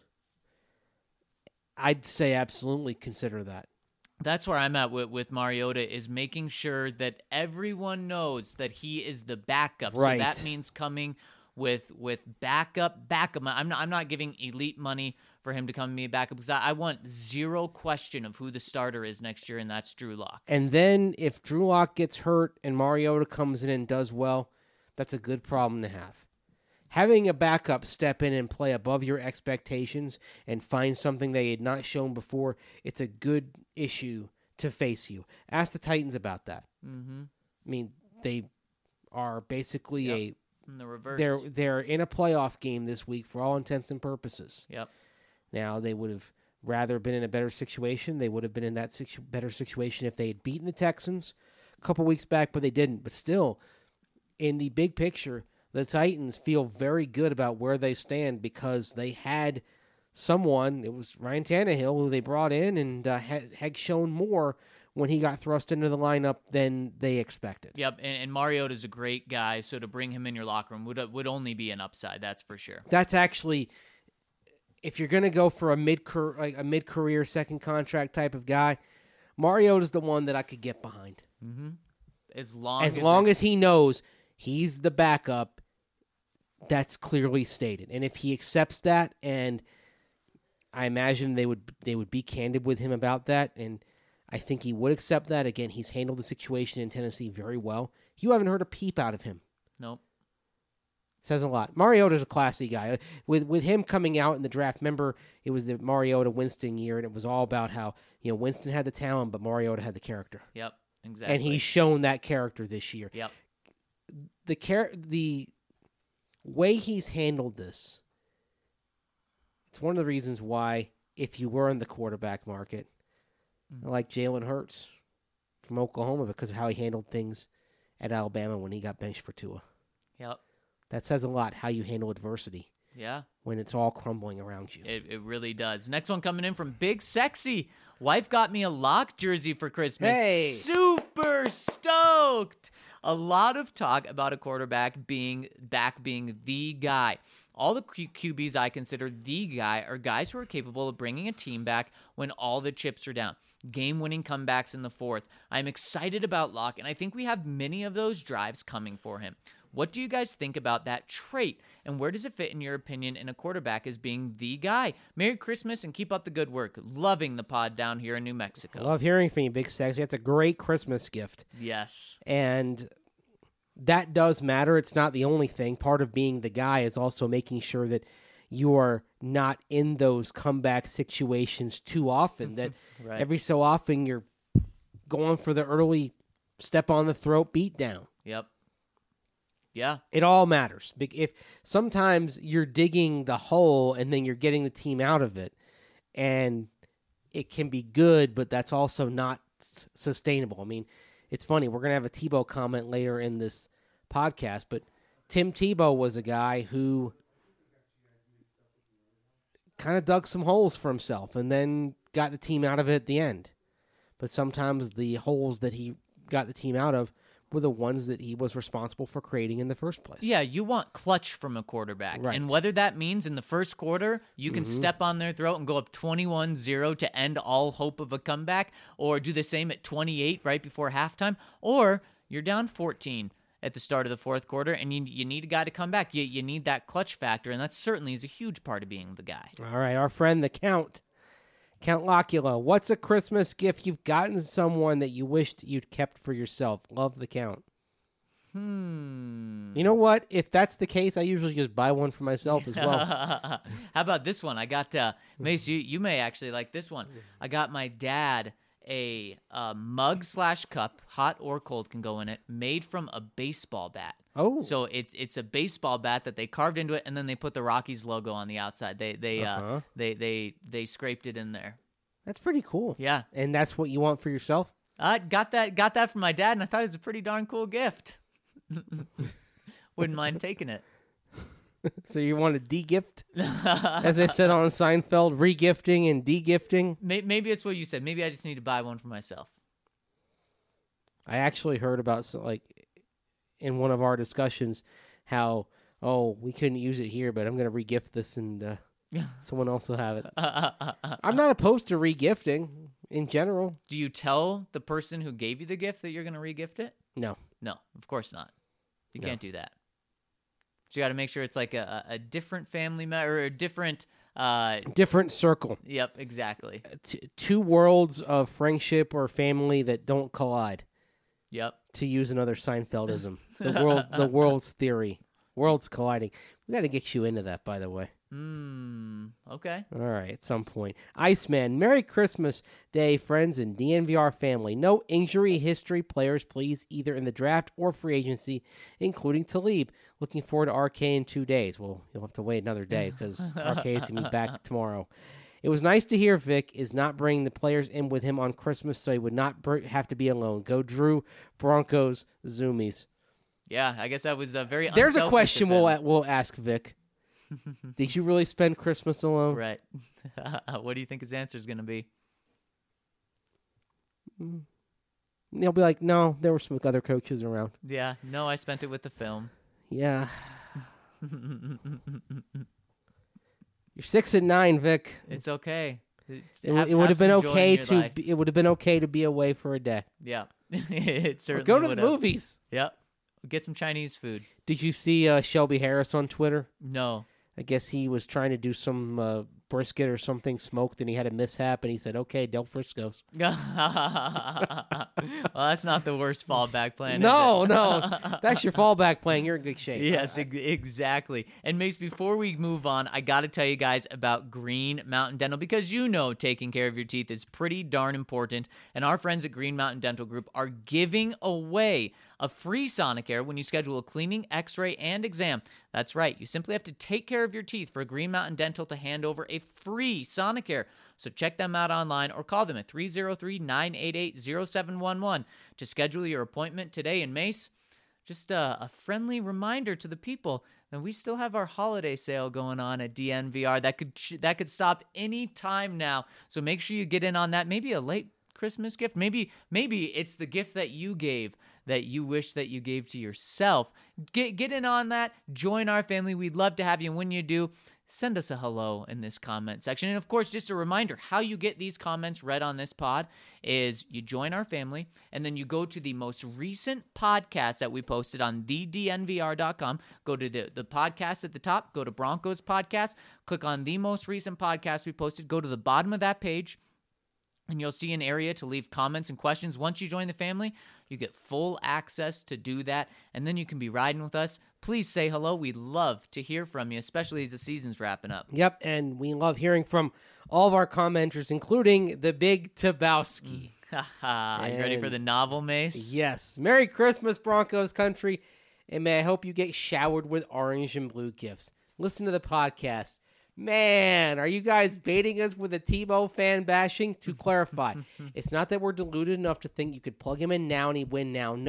I'd say absolutely consider that. That's where I'm at with, with Mariota, is making sure that everyone knows that he is the backup. Right. So that means coming with with backup, backup. I'm not, I'm not giving elite money for him to come and be a backup because I, I want zero question of who the starter is next year, and that's Drew Lock. And then if Drew Lock gets hurt and Mariota comes in and does well, that's a good problem to have. Having a backup step in and play above your expectations and find something they had not shown before, it's a good issue to face you. Ask the Titans about that. Mm-hmm. I mean, they are basically Yep. a In the reverse. they're they're in a playoff game this week for all intents and purposes. Yep. Now, they would have rather been in a better situation. They would have been in that situ- better situation if they had beaten the Texans a couple weeks back, but they didn't. But still, in the big picture, the Titans feel very good about where they stand because they had someone, it was Ryan Tannehill, who they brought in and uh, had, had shown more when he got thrust into the lineup than they expected. Yep, and, and Mariota's a great guy, so to bring him in your locker room would would only be an upside, that's for sure. That's actually, if you're going to go for a mid like a mid career second contract type of guy, Mariota's the one that I could get behind. Mm-hmm. As long as as, long it's- as he knows he's the backup, that's clearly stated. And if he accepts that, and I imagine they would they would be candid with him about that, and I think he would accept that. Again, he's handled the situation in Tennessee very well. You haven't heard a peep out of him. Nope. Says a lot. Mariota's a classy guy. With with him coming out in the draft, remember, it was the Mariota Winston year, and it was all about how, you know, Winston had the talent, but Mariota had the character. Yep, exactly. And he's shown that character this year. Yep. The char- the way he's handled this, it's one of the reasons why, if you were in the quarterback market, I like Jalen Hurts from Oklahoma because of how he handled things at Alabama when he got benched for Tua. Yep. That says a lot, how you handle adversity Yeah. when it's all crumbling around you. It, it really does. Next one coming in from Big Sexy. Wife got me a Lock jersey for Christmas. Hey! Super stoked. A lot of talk about a quarterback being back being the guy. All the Q- QBs I consider the guy are guys who are capable of bringing a team back when all the chips are down. Game-winning comebacks in the fourth. I'm excited about Lock, and I think we have many of those drives coming for him. What do you guys think about that trait, and where does it fit in your opinion in a quarterback as being the guy? Merry Christmas and keep up the good work. Loving the pod down here in New Mexico. I love hearing from you, Big Sexy. That's a great Christmas gift. Yes. And that does matter. It's not the only thing. Part of being the guy is also making sure that you are not in those comeback situations too often, that Right. every so often you're going for the early step on the throat beatdown. Yep. Yeah. It all matters. Bec- If sometimes you're digging the hole and then you're getting the team out of it, and it can be good, but that's also not s- sustainable. I mean, it's funny. We're gonna have a Tebow comment later in this podcast, but Tim Tebow was a guy who kind of dug some holes for himself and then got the team out of it at the end. But sometimes the holes that he got the team out of were the ones that he was responsible for creating in the first place. Yeah, you want clutch from a quarterback. Right. And whether that means in the first quarter you can Mhm. step on their throat and go up twenty-one zero to end all hope of a comeback, or do the same at twenty-eight right before halftime, or you're down fourteen at the start of the fourth quarter and you you need a guy to come back. You, you need that clutch factor, and that certainly is a huge part of being the guy. All right, our friend the Count, Count Locula. What's a Christmas gift you've gotten someone that you wished you'd kept for yourself? Love the Count. Hmm. You know what? If that's the case, I usually just buy one for myself as well. How about this one? I got, uh, Mace, you, you may actually like this one. I got my dad a, uh mug slash cup, hot or cold can go in it, made from a baseball bat. Oh. So it's it's a baseball bat that they carved into it, and then they put the Rockies logo on the outside. They they uh, Uh-huh. they they they scraped it in there. That's pretty cool. Yeah, And that's what you want for yourself? I got that got that from my dad, and I thought it was a pretty darn cool gift. Wouldn't mind taking it. So you want to de-gift? As they said on Seinfeld, re-gifting and de-gifting. May- Maybe it's what you said. Maybe I just need to buy one for myself. I actually heard about, so, like, in one of our discussions, how, oh, we couldn't use it here, but I'm going to re-gift this and uh, someone else will have it. I'm not opposed to re-gifting in general. Do you tell the person who gave you the gift that you're going to re-gift it? No. No, of course not. You No. can't do that. So you got to make sure it's like a, a different family member or a different. Uh, Different circle. yep, exactly. T- two worlds of friendship or family that don't collide. Yep. To use another Seinfeldism, the world, the world's theory, worlds colliding. We got to get you into that, by the way. Hmm. Okay. All right, at some point. Iceman, Merry Christmas Day, friends and D N V R family. No injury history players, please, either in the draft or free agency, including Talib. Looking forward to R K in two days. Well, you'll have to wait another day because R K is going to be back tomorrow. It was nice to hear Vic is not bringing the players in with him on Christmas, so he would not br- have to be alone. Go Drew, Broncos, Zoomies. Yeah, I guess I was uh, very. There's a unselfish question of we'll him. a- we'll ask Vic. Did you really spend Christmas alone? Right. What do you think his answer is going to be? He'll be like, no, there were some other coaches around. Yeah. No, I spent it with the film. Yeah. You're six and nine, Vic. It's okay. It, Have- it would have have been some joy in okay your to. life. Be, it would have been okay to be away for a day. Yeah. It Or certainly go to the would have. movies. Yep. Get some Chinese food. Did you see uh, Shelby Harris on Twitter? No. I guess he was trying to do some uh, brisket or something smoked, and he had a mishap, and he said, "Okay, Del Frisco's." Well, that's not the worst fallback plan. is No, it? no, that's your fallback plan. You're in good shape. Yes, ex- exactly. And Mace, before we move on, I got to tell you guys about Green Mountain Dental, because you know taking care of your teeth is pretty darn important. And our friends at Green Mountain Dental Group are giving away a free Sonicare when you schedule a cleaning, x-ray, and exam. That's right. You simply have to take care of your teeth for Green Mountain Dental to hand over a free Sonicare. So check them out online or call them at three oh three, nine eight eight, oh seven one one to schedule your appointment today. And Mace, just a, a friendly reminder to the people that we still have our holiday sale going on at D N V R. That could that could stop any time now. So make sure you get in on that. Maybe a late Christmas gift. Maybe maybe it's the gift that you gave that you wish that you gave to yourself. Get get in on that. Join our family. We'd love to have you. And when you do, send us a hello in this comment section. And of course, just a reminder, how you get these comments read on this pod is you join our family, and then you go to the most recent podcast that we posted on the D N V R dot com. Go to the, the podcast at the top, go to Broncos Podcast, click on the most recent podcast we posted, go to the bottom of that page, and you'll see an area to leave comments and questions. Once you join the family, you get full access to do that, and then you can be riding with us. Please say hello. We'd love to hear from you, especially as the season's wrapping up. Yep, and we love hearing from all of our commenters, including the Big Tabowski. Haha, you ready for the novel, Mace? Yes. Merry Christmas, Broncos country, and may I hope you get showered with orange and blue gifts. Listen to the podcast. Man, are you guys baiting us with a Tebow fan bashing? To clarify, it's not that we're deluded enough to think you could plug him in now and he'd win now. No.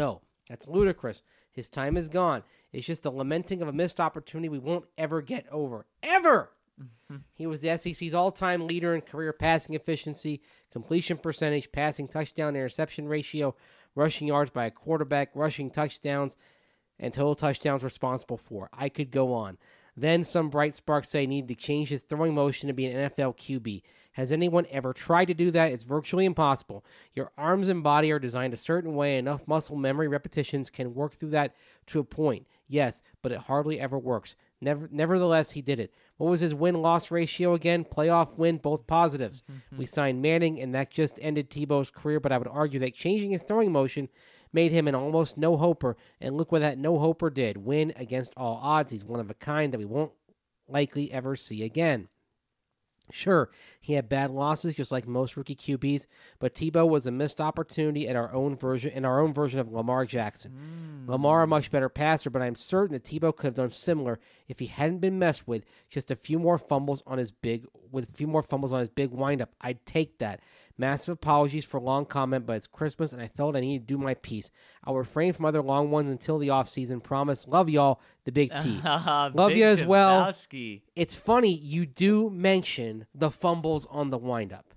That's ludicrous. His time is gone. It's just the lamenting of a missed opportunity we won't ever get over. Ever! Mm-hmm. He was the S E C's all-time leader in career passing efficiency, completion percentage, passing touchdown interception ratio, rushing yards by a quarterback, rushing touchdowns, and total touchdowns responsible for. I could go on. Then some bright sparks say he needed to change his throwing motion to be an N F L Q B. Has anyone ever tried to do that? It's virtually impossible. Your arms and body are designed a certain way. Enough muscle memory repetitions can work through that to a point. Yes, but it hardly ever works. Never, nevertheless, he did it. What was his win-loss ratio again? Playoff win, both positives. Mm-hmm. We signed Manning, and that just ended Tebow's career, but I would argue that changing his throwing motion made him an almost no-hoper, and look what that no-hoper did. Win against all odds. He's one of a kind that we won't likely ever see again. Sure, he had bad losses just like most rookie Q Bs, but Tebow was a missed opportunity at our own version in our own version of Lamar Jackson. Mm. Lamar a much better passer, but I'm certain that Tebow could have done similar if he hadn't been messed with just a few more fumbles on his big with a few more fumbles on his big windup. I'd take that. Massive apologies for long comment, but it's Christmas and I felt I needed to do my piece. I'll refrain from other long ones until the offseason. Promise. Love y'all, the Big T. Uh, Love Big you as well. Tebowski. It's funny, you do mention the fumbles on the windup.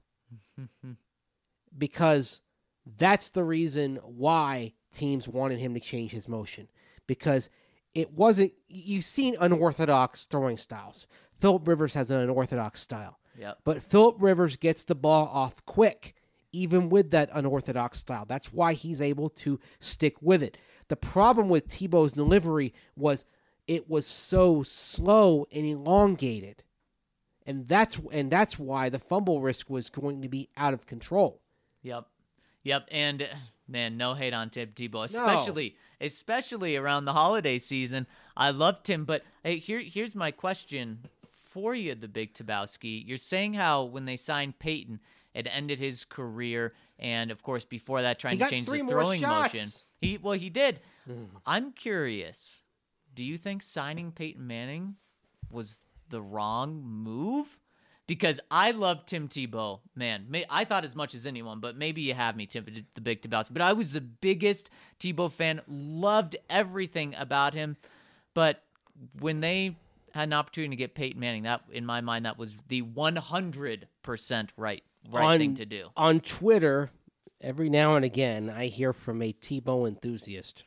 Because that's the reason why teams wanted him to change his motion. Because it wasn't, you've seen unorthodox throwing styles. Phillip Rivers has an unorthodox style. Yep. But Phillip Rivers gets the ball off quick, even with that unorthodox style. That's why he's able to stick with it. The problem with Tebow's delivery was it was so slow and elongated. And that's and that's why the fumble risk was going to be out of control. Yep. Yep. And man, no hate on Tim Tebow, especially no. especially around the holiday season. I love Tim, but hey, here here's my question for you, the Big Tebowski. You're saying how when they signed Peyton, it ended his career, and of course before that, trying to change the throwing motion. He well, he did. Mm. I'm curious. Do you think signing Peyton Manning was the wrong move? Because I love Tim Tebow, man. May, I thought as much as anyone, but maybe you have me, Tim, the Big Tebowski. But I was the biggest Tebow fan. Loved everything about him. But when they had an opportunity to get Peyton Manning, that in my mind, that was the one hundred percent right right on, thing to do. On Twitter, every now and again, I hear from a Tebow enthusiast.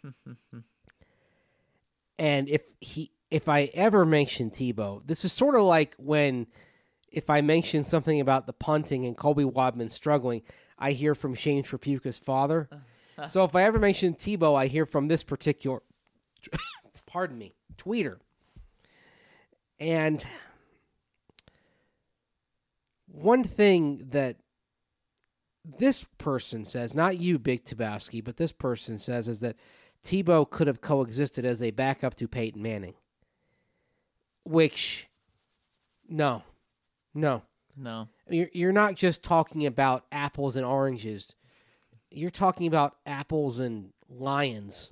And if he, if I ever mention Tebow, this is sort of like when, if I mention something about the punting and Colby Wadman struggling, I hear from Shane Trapuka's father. So if I ever mention Tebow, I hear from this particular, pardon me, tweeter. And one thing that this person says, not you, Big Tebowski, but this person says is that Tebow could have coexisted as a backup to Peyton Manning. Which, no, no. No. You're, you're not just talking about apples and oranges. You're talking about apples and lions.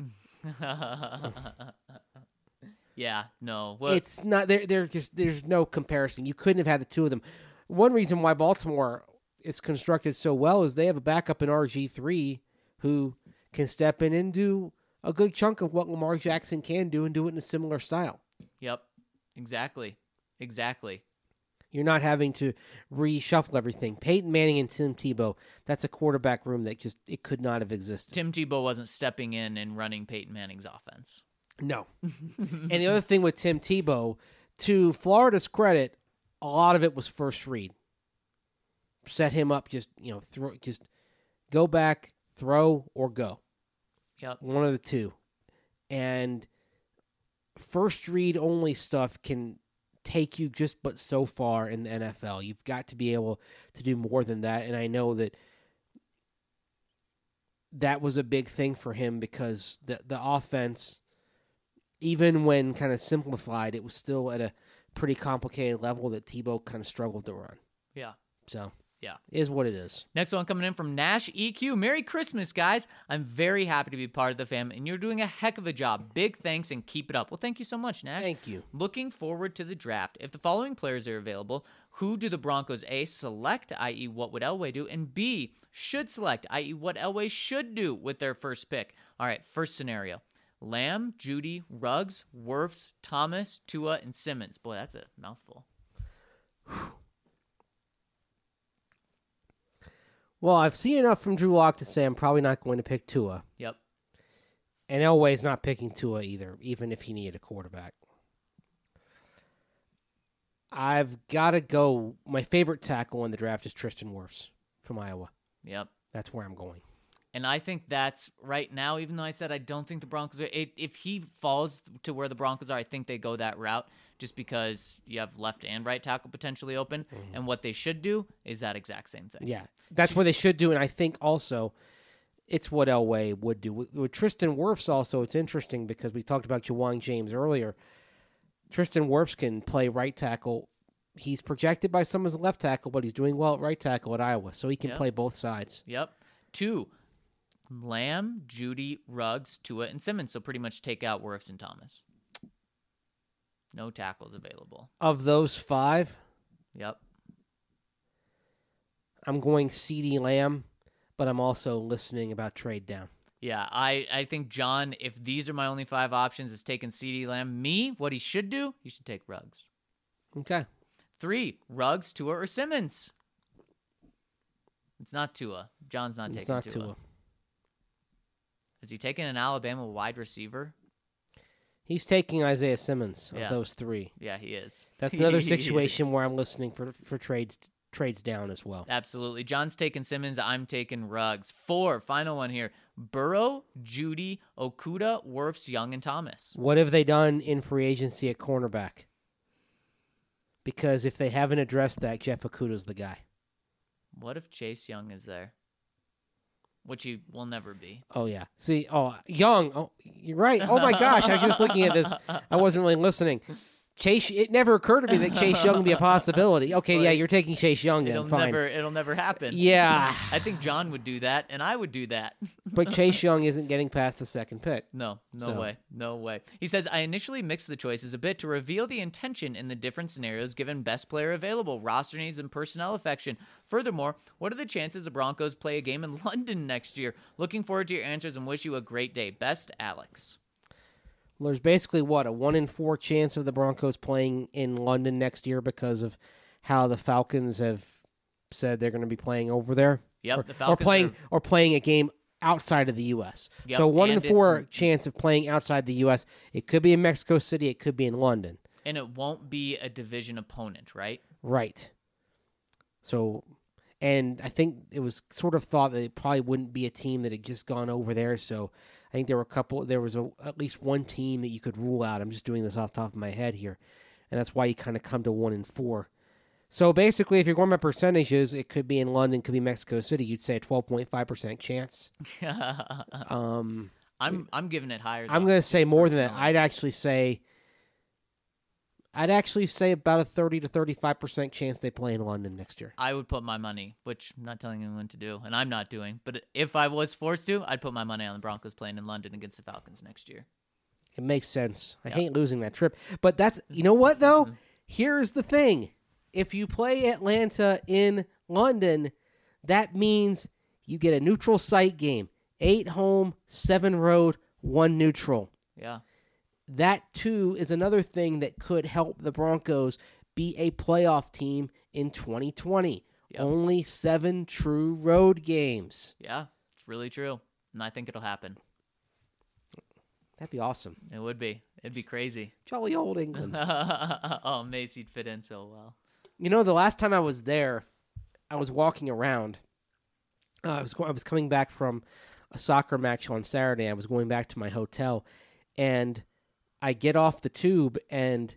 Yeah, no. Well, it's not, they're, they're just, there's no comparison. You couldn't have had the two of them. One reason why Baltimore is constructed so well is they have a backup in R G three who can step in and do a good chunk of what Lamar Jackson can do and do it in a similar style. Yep, exactly, exactly. You're not having to reshuffle everything. Peyton Manning and Tim Tebow, that's a quarterback room that just, it could not have existed. Tim Tebow wasn't stepping in and running Peyton Manning's offense. No. And the other thing with Tim Tebow, to Florida's credit, a lot of it was first read. Set him up, just, you know, throw, just go back, throw, or go. Yep. One of the two. And first read only stuff can take you just but so far in the N F L. You've got to be able to do more than that. And I know that that was a big thing for him because the the offense, even when kind of simplified, it was still at a pretty complicated level that Tebow kind of struggled to run. Yeah. So. Yeah. Is what it is. Next one coming in from Nash E Q. Merry Christmas, guys. I'm very happy to be part of the fam, and you're doing a heck of a job. Big thanks, and keep it up. Well, thank you so much, Nash. Thank you. Looking forward to the draft. If the following players are available, Who do the Broncos A, select, that is what would Elway do, and B, should select, that is what Elway should do with their first pick? All right, first scenario. Lamb, Judy, Ruggs, Wirfs, Thomas, Tua, and Simmons. Boy, that's a mouthful. Well, I've seen enough from Drew Lock to say I'm probably not going to pick Tua. Yep. And Elway's not picking Tua either, even if he needed a quarterback. I've got to go. My favorite tackle in the draft is Tristan Wirfs from Iowa. Yep. That's where I'm going. And I think that's right now, even though I said I don't think the Broncos are, it, if he falls to where the Broncos are, I think they go that route just because you have left and right tackle potentially open. Mm-hmm. And what they should do is that exact same thing. Yeah, that's what they should do. And I think also it's what Elway would do. With, with Tristan Wirfs also, it's interesting because we talked about Ja'Wuan James earlier. Tristan Wirfs can play right tackle. He's projected by some as a left tackle, but he's doing well at right tackle at Iowa, so he can yep. play both sides. Yep. Two, Lamb, Judy, Ruggs, Tua, and Simmons. So pretty much take out Wirfs and Thomas. No tackles available. Of those five, yep, I'm going CeeDee Lamb, but I'm also listening about trade down. Yeah, I, I think John, if these are my only five options, is taking CeeDee Lamb. Me, what he should do, he should take Ruggs. Okay. Three, Ruggs, Tua, or Simmons. It's not Tua. John's not it's taking not Tua. Tua. Is he taking an Alabama wide receiver? He's taking Isaiah Simmons of yeah. those three. Yeah, he is. That's another situation where I'm listening for, for trades trades down as well. Absolutely. John's taking Simmons. I'm taking Ruggs. Four, final one here. Burrow, Judy, Okuda, Wirfs, Young, and Thomas. What have they done in free agency at cornerback? Because if they haven't addressed that, Jeff Okuda's the guy. What if Chase Young is there? Which he will never be. Oh, yeah. See, oh, Young. Oh, you're right. Oh, my gosh. I was just looking at this. I wasn't really listening. Chase, it never occurred to me that Chase Young would be a possibility. Okay, well, yeah, you're taking Chase Young then, it'll fine. Never, it'll never happen. Yeah. I think John would do that, and I would do that. But Chase Young isn't getting past the second pick. No, no so. way. No way. He says, I initially mixed the choices a bit to reveal the intention in the different scenarios given best player available, roster needs, and personnel affection. Furthermore, what are the chances the Broncos play a game in London next year? Looking forward to your answers and wish you a great day. Best, Alex. Well, there's basically, what, a one in four chance of the Broncos playing in London next year because of how the Falcons have said they're going to be playing over there? Yep, or, the Falcons or playing are... or playing a game outside of the U S Yep, so one in four it's... chance of playing outside the U S It could be in Mexico City. It could be in London. And it won't be a division opponent, right? Right. So, and I think it was sort of thought that it probably wouldn't be a team that had just gone over there, so... I think there were a couple. There was a, at least one team that you could rule out. I'm just doing this off the top of my head here, and that's why you kind of come to one in four. So basically, if you're going by percentages, it could be in London, could be Mexico City. You'd say a twelve point five percent chance. um, I'm I'm giving it higher. Though, I'm going to say more personally. than that. I'd actually say. I'd actually say about a thirty to thirty-five percent chance they play in London next year. I would put my money, which I'm not telling anyone to do, and I'm not doing, but if I was forced to, I'd put my money on the Broncos playing in London against the Falcons next year. It makes sense. I yeah. hate losing that trip. But that's, you know what, though? Mm-hmm. Here's the thing. If you play Atlanta in London, that means you get a neutral site game. Eight home, seven road, one neutral. Yeah. That, too, is another thing that could help the Broncos be a playoff team in twenty twenty. Yep. Only seven true road games. Yeah, it's really true. And I think it'll happen. That'd be awesome. It would be. It'd be crazy. Jolly old England. Oh, Macy'd fit in so well. You know, the last time I was there, I was walking around. Uh, I was I was coming back from a soccer match on Saturday. I was going back to my hotel, and I get off the tube, and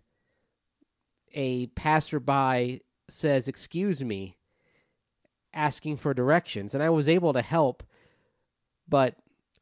a passerby says, "Excuse me," asking for directions, and I was able to help, but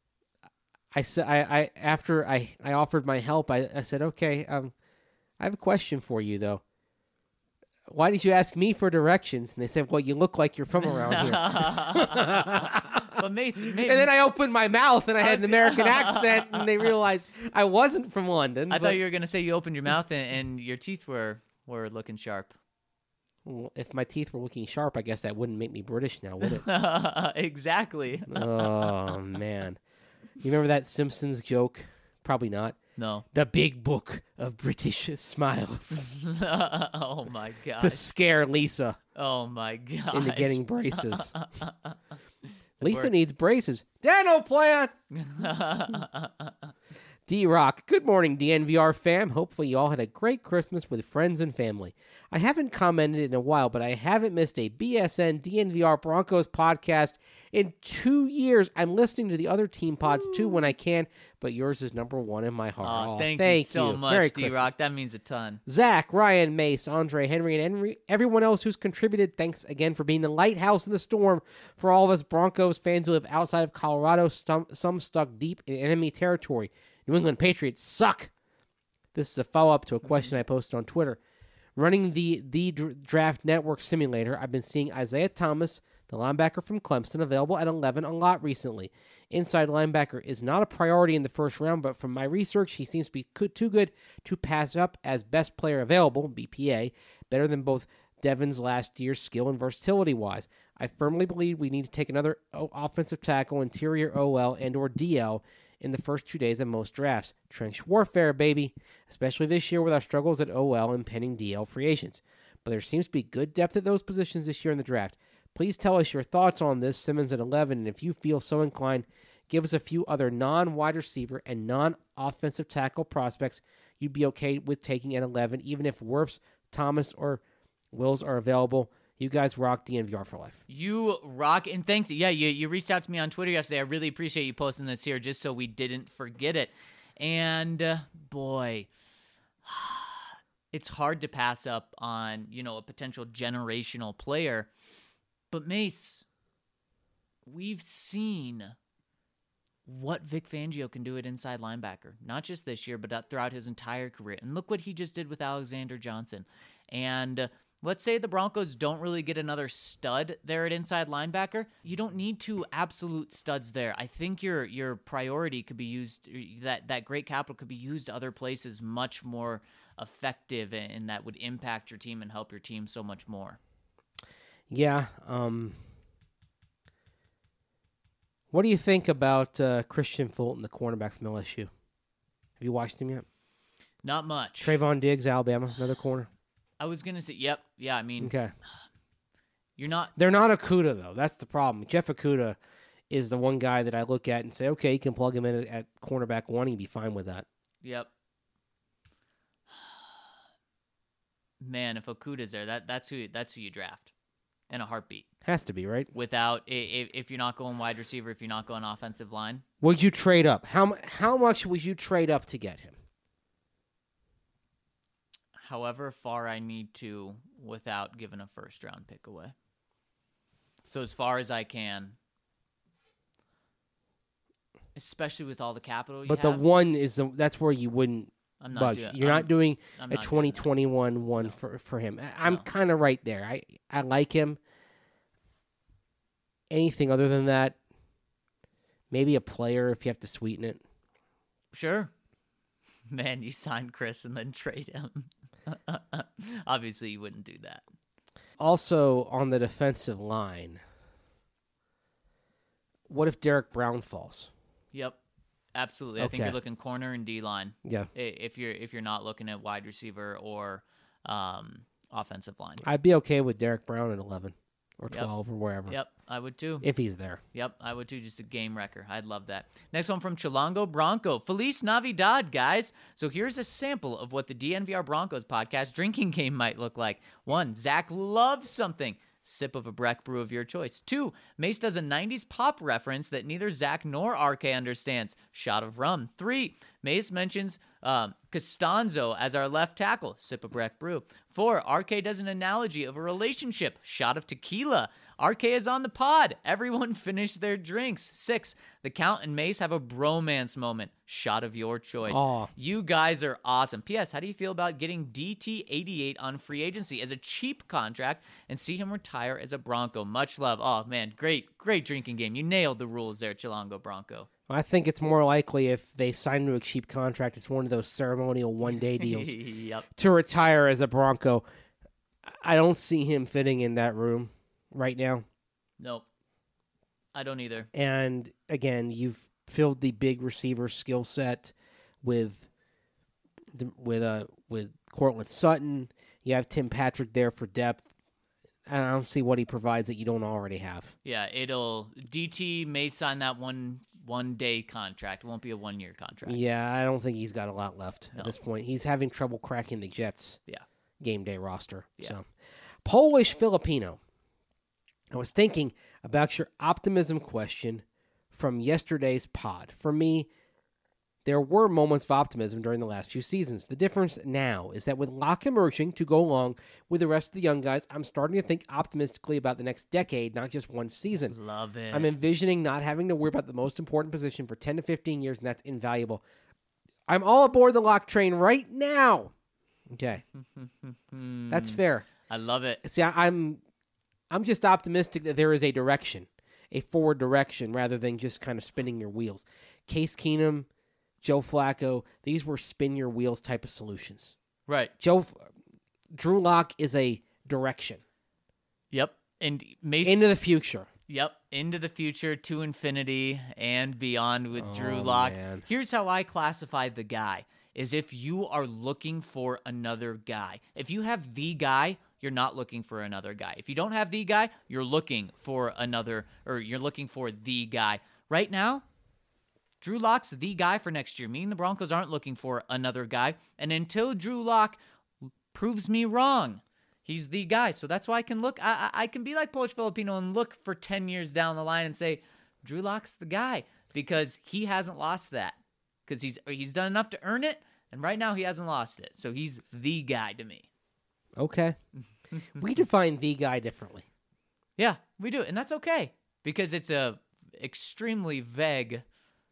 I said, I, I after I, I offered my help, I, I said, "Okay, um, I have a question for you, though. Why did you ask me for directions?" And they said, "Well, you look like you're from around here." But maybe, maybe. And then I opened my mouth and I, I had was, an American accent, and they realized I wasn't from London. I but... thought you were going to say you opened your mouth and, and your teeth were, were looking sharp. Well, if my teeth were looking sharp, I guess that wouldn't make me British now, would it? Exactly. Oh, man. You remember that Simpsons joke? Probably not. No. The big book of British smiles. Oh, my God. To scare Lisa Oh, my God. into getting braces. Lisa needs braces. Dental plan! D-Rock, good morning, D N V R fam. Hopefully you all had a great Christmas with friends and family. I haven't commented in a while, but I haven't missed a B S N D N V R Broncos podcast in two years. I'm listening to the other team pods too when I can, but yours is number one in my heart. Oh, Oh, thank, thank you so you. much, Merry D-Rock. Christmas. That means a ton. Zach, Ryan, Mace, Andre, Henry, and Henry, everyone else who's contributed, thanks again for being the lighthouse in the storm for all of us Broncos fans who live outside of Colorado, some, some stuck deep in enemy territory. New England Patriots suck. This is a follow-up to a question I posted on Twitter. Running the, the Draft Network simulator, I've been seeing Isaiah Thomas, the linebacker from Clemson, available at eleven a lot recently. Inside linebacker is not a priority in the first round, but from my research, he seems to be good, too good to pass up as best player available, B P A, better than both Devin's last year's skill and versatility-wise. I firmly believe we need to take another offensive tackle, interior O L, and or D L in the first two days of most drafts. Trench warfare, baby, especially this year with our struggles at O L and pending D L free agents. But there seems to be good depth at those positions this year in the draft. Please tell us your thoughts on this, Simmons at eleven, and if you feel so inclined, give us a few other non-wide receiver and non-offensive tackle prospects you'd be okay with taking at eleven, even if Wirfs, Thomas, or Wills are available. You guys rock D N V R for life. You rock, and thanks. Yeah, you, you reached out to me on Twitter yesterday. I really appreciate you posting this here just so we didn't forget it. And, uh, boy, it's hard to pass up on, you know, a potential generational player. But, Mace, we've seen what Vic Fangio can do at inside linebacker. Not just this year, but throughout his entire career. And look what he just did with Alexander Johnson. And uh, let's say the Broncos don't really get another stud there at inside linebacker. You don't need two absolute studs there. I think your your priority could be used, that, that great capital could be used other places much more effective, and that would impact your team and help your team so much more. Yeah. Um, what do you think about uh, Christian Fulton, the cornerback from L S U? Have you watched him yet? Not much. Trayvon Diggs, Alabama, another corner. I was going to say, yep. Yeah, I mean, Okay. you're not. They're not Okuda, though. That's the problem. Jeff Okuda is the one guy that I look at and say, okay, you can plug him in at cornerback one, he'd be fine with that. Yep. Man, if Okuda's there, that that's who that's who you draft in a heartbeat. Has to be, right? Without, if, if you're not going wide receiver, if you're not going offensive line. Would you trade up? How mu- how much would you trade up to get him? However far I need to without giving a first round pick away. So as far as I can. Especially with all the capital you But have. the one is the, that's where you wouldn't I'm not budge. doing, You're I'm, not doing I'm a not doing twenty that. twenty-one one No. for, for him. I- I'm No. kind of right there. I, I like him. Anything other than that, maybe a player if you have to sweeten it. Sure. Man, you sign Chris and then trade him. Obviously, you wouldn't do that. Also, on the defensive line, what if Derek Brown falls? Yep. Absolutely. I think Okay. you're looking corner and D line. Yeah. If you're if you're not looking at wide receiver or um, offensive line. I'd be okay with Derek Brown at eleven or Yep. twelve or wherever. Yep, I would too. If he's there. Yep, I would too. Just a game wrecker. I'd love that. Next one from Chilango Bronco. Feliz Navidad, guys. So here's a sample of what the D N V R Broncos podcast drinking game might look like. One, Zach loves something. Sip of a Breck brew of your choice. Two, Mace does a nineties pop reference that neither Zach nor R K understands. Shot of rum. Three, Mace mentions um, Costanzo as our left tackle. Sip of Breck brew. Four, R K does an analogy of a relationship. Shot of tequila. R K is on the pod. Everyone finish their drinks. Six, the Count and Mace have a bromance moment. Shot of your choice. Aw. You guys are awesome. P S. How do you feel about getting D T eighty-eight on free agency as a cheap contract and see him retire as a Bronco? Much love. Oh, man. Great, great drinking game. You nailed the rules there, Chilango Bronco. I think it's more likely if they sign to a cheap contract, it's one of those ceremonial one-day deals Yep. to retire as a Bronco. I don't see him fitting in that room right now. Nope. I don't either. And again, you've filled the big receiver skill set with with uh with Cortland Sutton. You have Tim Patrick there for depth. And I don't see what he provides that you don't already have. Yeah, it'll D T may sign that one one day contract. It won't be a one year contract. Yeah, I don't think he's got a lot left No. at this point. He's having trouble cracking the Jets Yeah. game day roster. Yeah. So Polish Filipino. I was thinking about your optimism question from yesterday's pod. For me, there were moments of optimism during the last few seasons. The difference now is that with Locke emerging to go along with the rest of the young guys, I'm starting to think optimistically about the next decade, not just one season. Love it. I'm envisioning not having to worry about the most important position for ten to fifteen years, and that's invaluable. I'm all aboard the Locke train right now. Okay. That's fair. I love it. See, I, I'm I'm just optimistic that there is a direction, a forward direction, rather than just kind of spinning your wheels. Case Keenum, Joe Flacco, these were spin your wheels type of solutions. Right. Joe, Drew Lock is a direction Yep. And Mason. into the future. Yep. Into the future, to infinity and beyond with Drew Oh, Lock. man. Here's how I classify the guy. Is if you are looking for another guy. If you have the guy, you're not looking for another guy. If you don't have the guy, you're looking for another, or you're looking for the guy. Right now, Drew Lock's the guy for next year. Me and the Broncos aren't looking for another guy. And until Drew Lock proves me wrong, he's the guy. So that's why I can look, I, I I can be like Polish Filipino and look for ten years down the line and say, Drew Lock's the guy, because he hasn't lost that. Because he's he's done enough to earn it, and right now he hasn't lost it. So he's the guy to me. Okay. We define the guy differently. Yeah, we do, and that's okay, because it's a extremely vague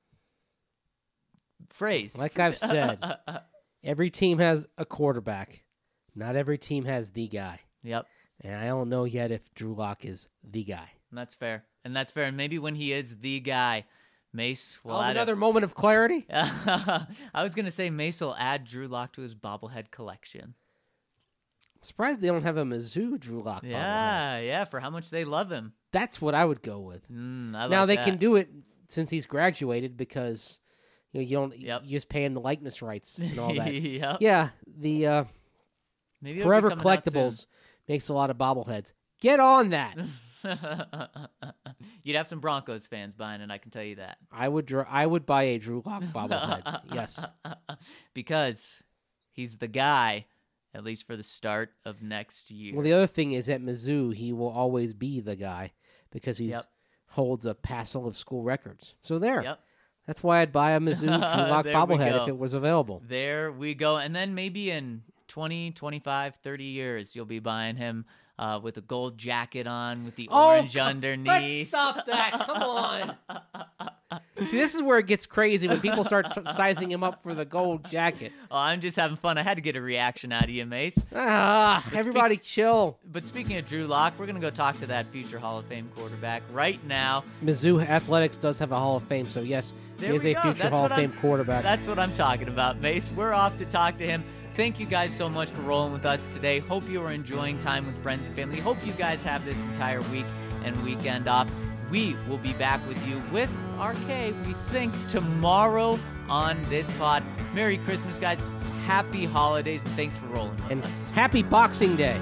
phrase. Like I've said, every team has a quarterback. Not every team has the guy. Yep, And I don't know yet if Drew Lock is the guy. and that's fair, and that's fair. And maybe when he is the guy, Mace will Oh, add another moment of clarity. A, I was gonna say Mace will add Drew Lock to his bobblehead collection. I'm surprised they don't have a Mizzou Drew Lock bobblehead. Yeah, yeah, for how much they love him. That's what I would go with. Mm, I now like they that. can do it since he's graduated because you know you don't Yep. you just pay him the likeness rights and all that. Yep. Yeah, the uh, Maybe it'll be Forever coming out soon. Collectibles makes a lot of bobbleheads. Get on that. You'd have some Broncos fans buying it, I can tell you that. I would dr- I would buy a Drew Lock bobblehead. Yes. Because he's the guy, at least for the start of next year. Well, the other thing is at Mizzou, he will always be the guy because he Yep. holds a passel of school records. So there. Yep. That's why I'd buy a Mizzou Drew Lock There we bobblehead go. if it was available. There we go. And then maybe in twenty, twenty-five, thirty years, you'll be buying him uh, with a gold jacket on, with the orange come- underneath. Let's stop that. Come on. See, this is where it gets crazy when people start t- sizing him up for the gold jacket. Oh, I'm just having fun. I had to get a reaction out of you, Mace. Ah, everybody chill. But speaking of Drew Lock, we're going to go talk to that future Hall of Fame quarterback right now. Mizzou Athletics does have a Hall of Fame, so yes, There he is we a go. future That's Hall what of Fame I'm- quarterback. That's what I'm talking about, Mace. We're off to talk to him. Thank you guys so much for rolling with us today. Hope you are enjoying time with friends and family. Hope you guys have this entire week and weekend off. We will be back with you with R K, we think, tomorrow on this pod. Merry Christmas, guys. Happy holidays, and thanks for rolling with And us. happy Boxing Day.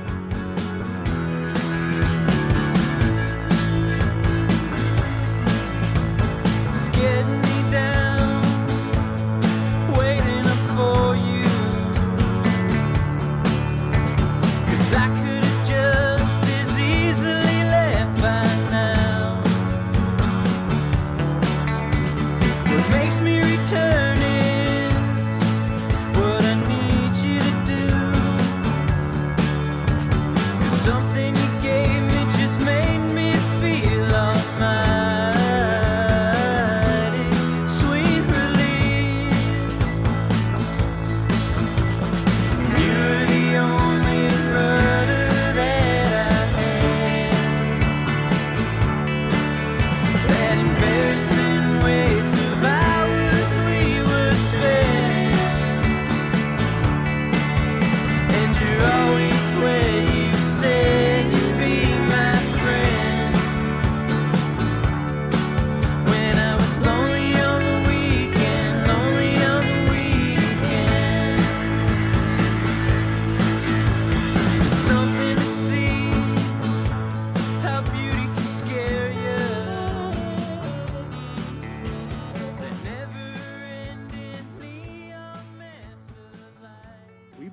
It's getting me down, waiting up for you. 'Cause I could have just as easily left by now. What makes me return is what I need you to do.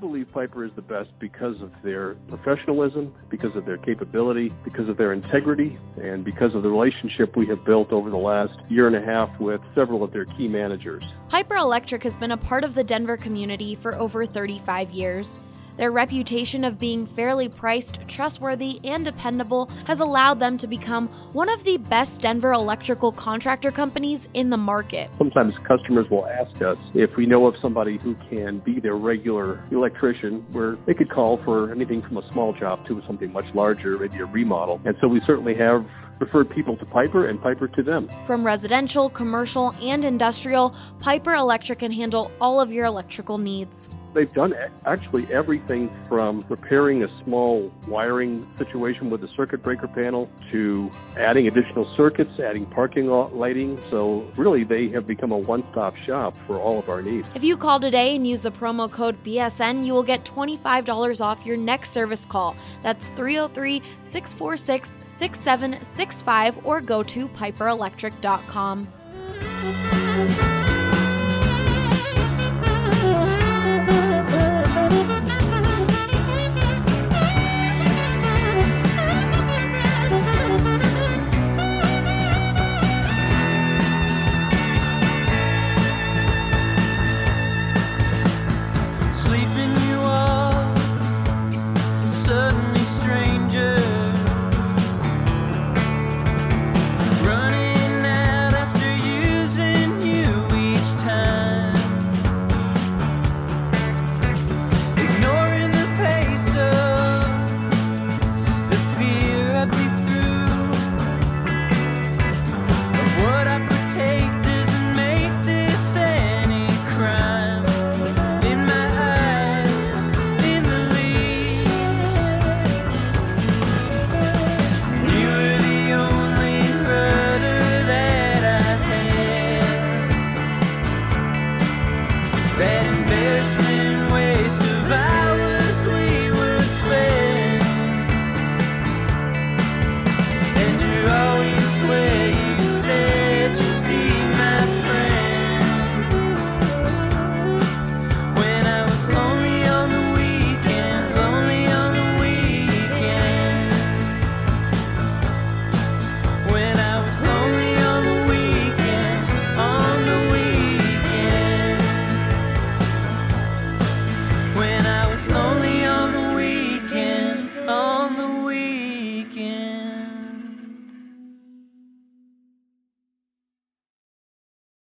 believe Piper is the best because of their professionalism, because of their capability, because of their integrity, and because of the relationship we have built over the last year and a half with several of their key managers. Piper Electric has been a part of the Denver community for over thirty-five years. Their reputation of being fairly priced, trustworthy, and dependable has allowed them to become one of the best Denver electrical contractor companies in the market. Sometimes customers will ask us if we know of somebody who can be their regular electrician, where they could call for anything from a small job to something much larger, maybe a remodel. And so we certainly have referred people to Piper and Piper to them. From residential, commercial, and industrial, Piper Electric can handle all of your electrical needs. They've done actually everything from repairing a small wiring situation with a circuit breaker panel to adding additional circuits, adding parking lot lighting. So really, they have become a one-stop shop for all of our needs. If you call today and use the promo code B S N, you will get twenty-five dollars off your next service call. That's three oh three, six four six, six seven six five or go to piper electric dot com.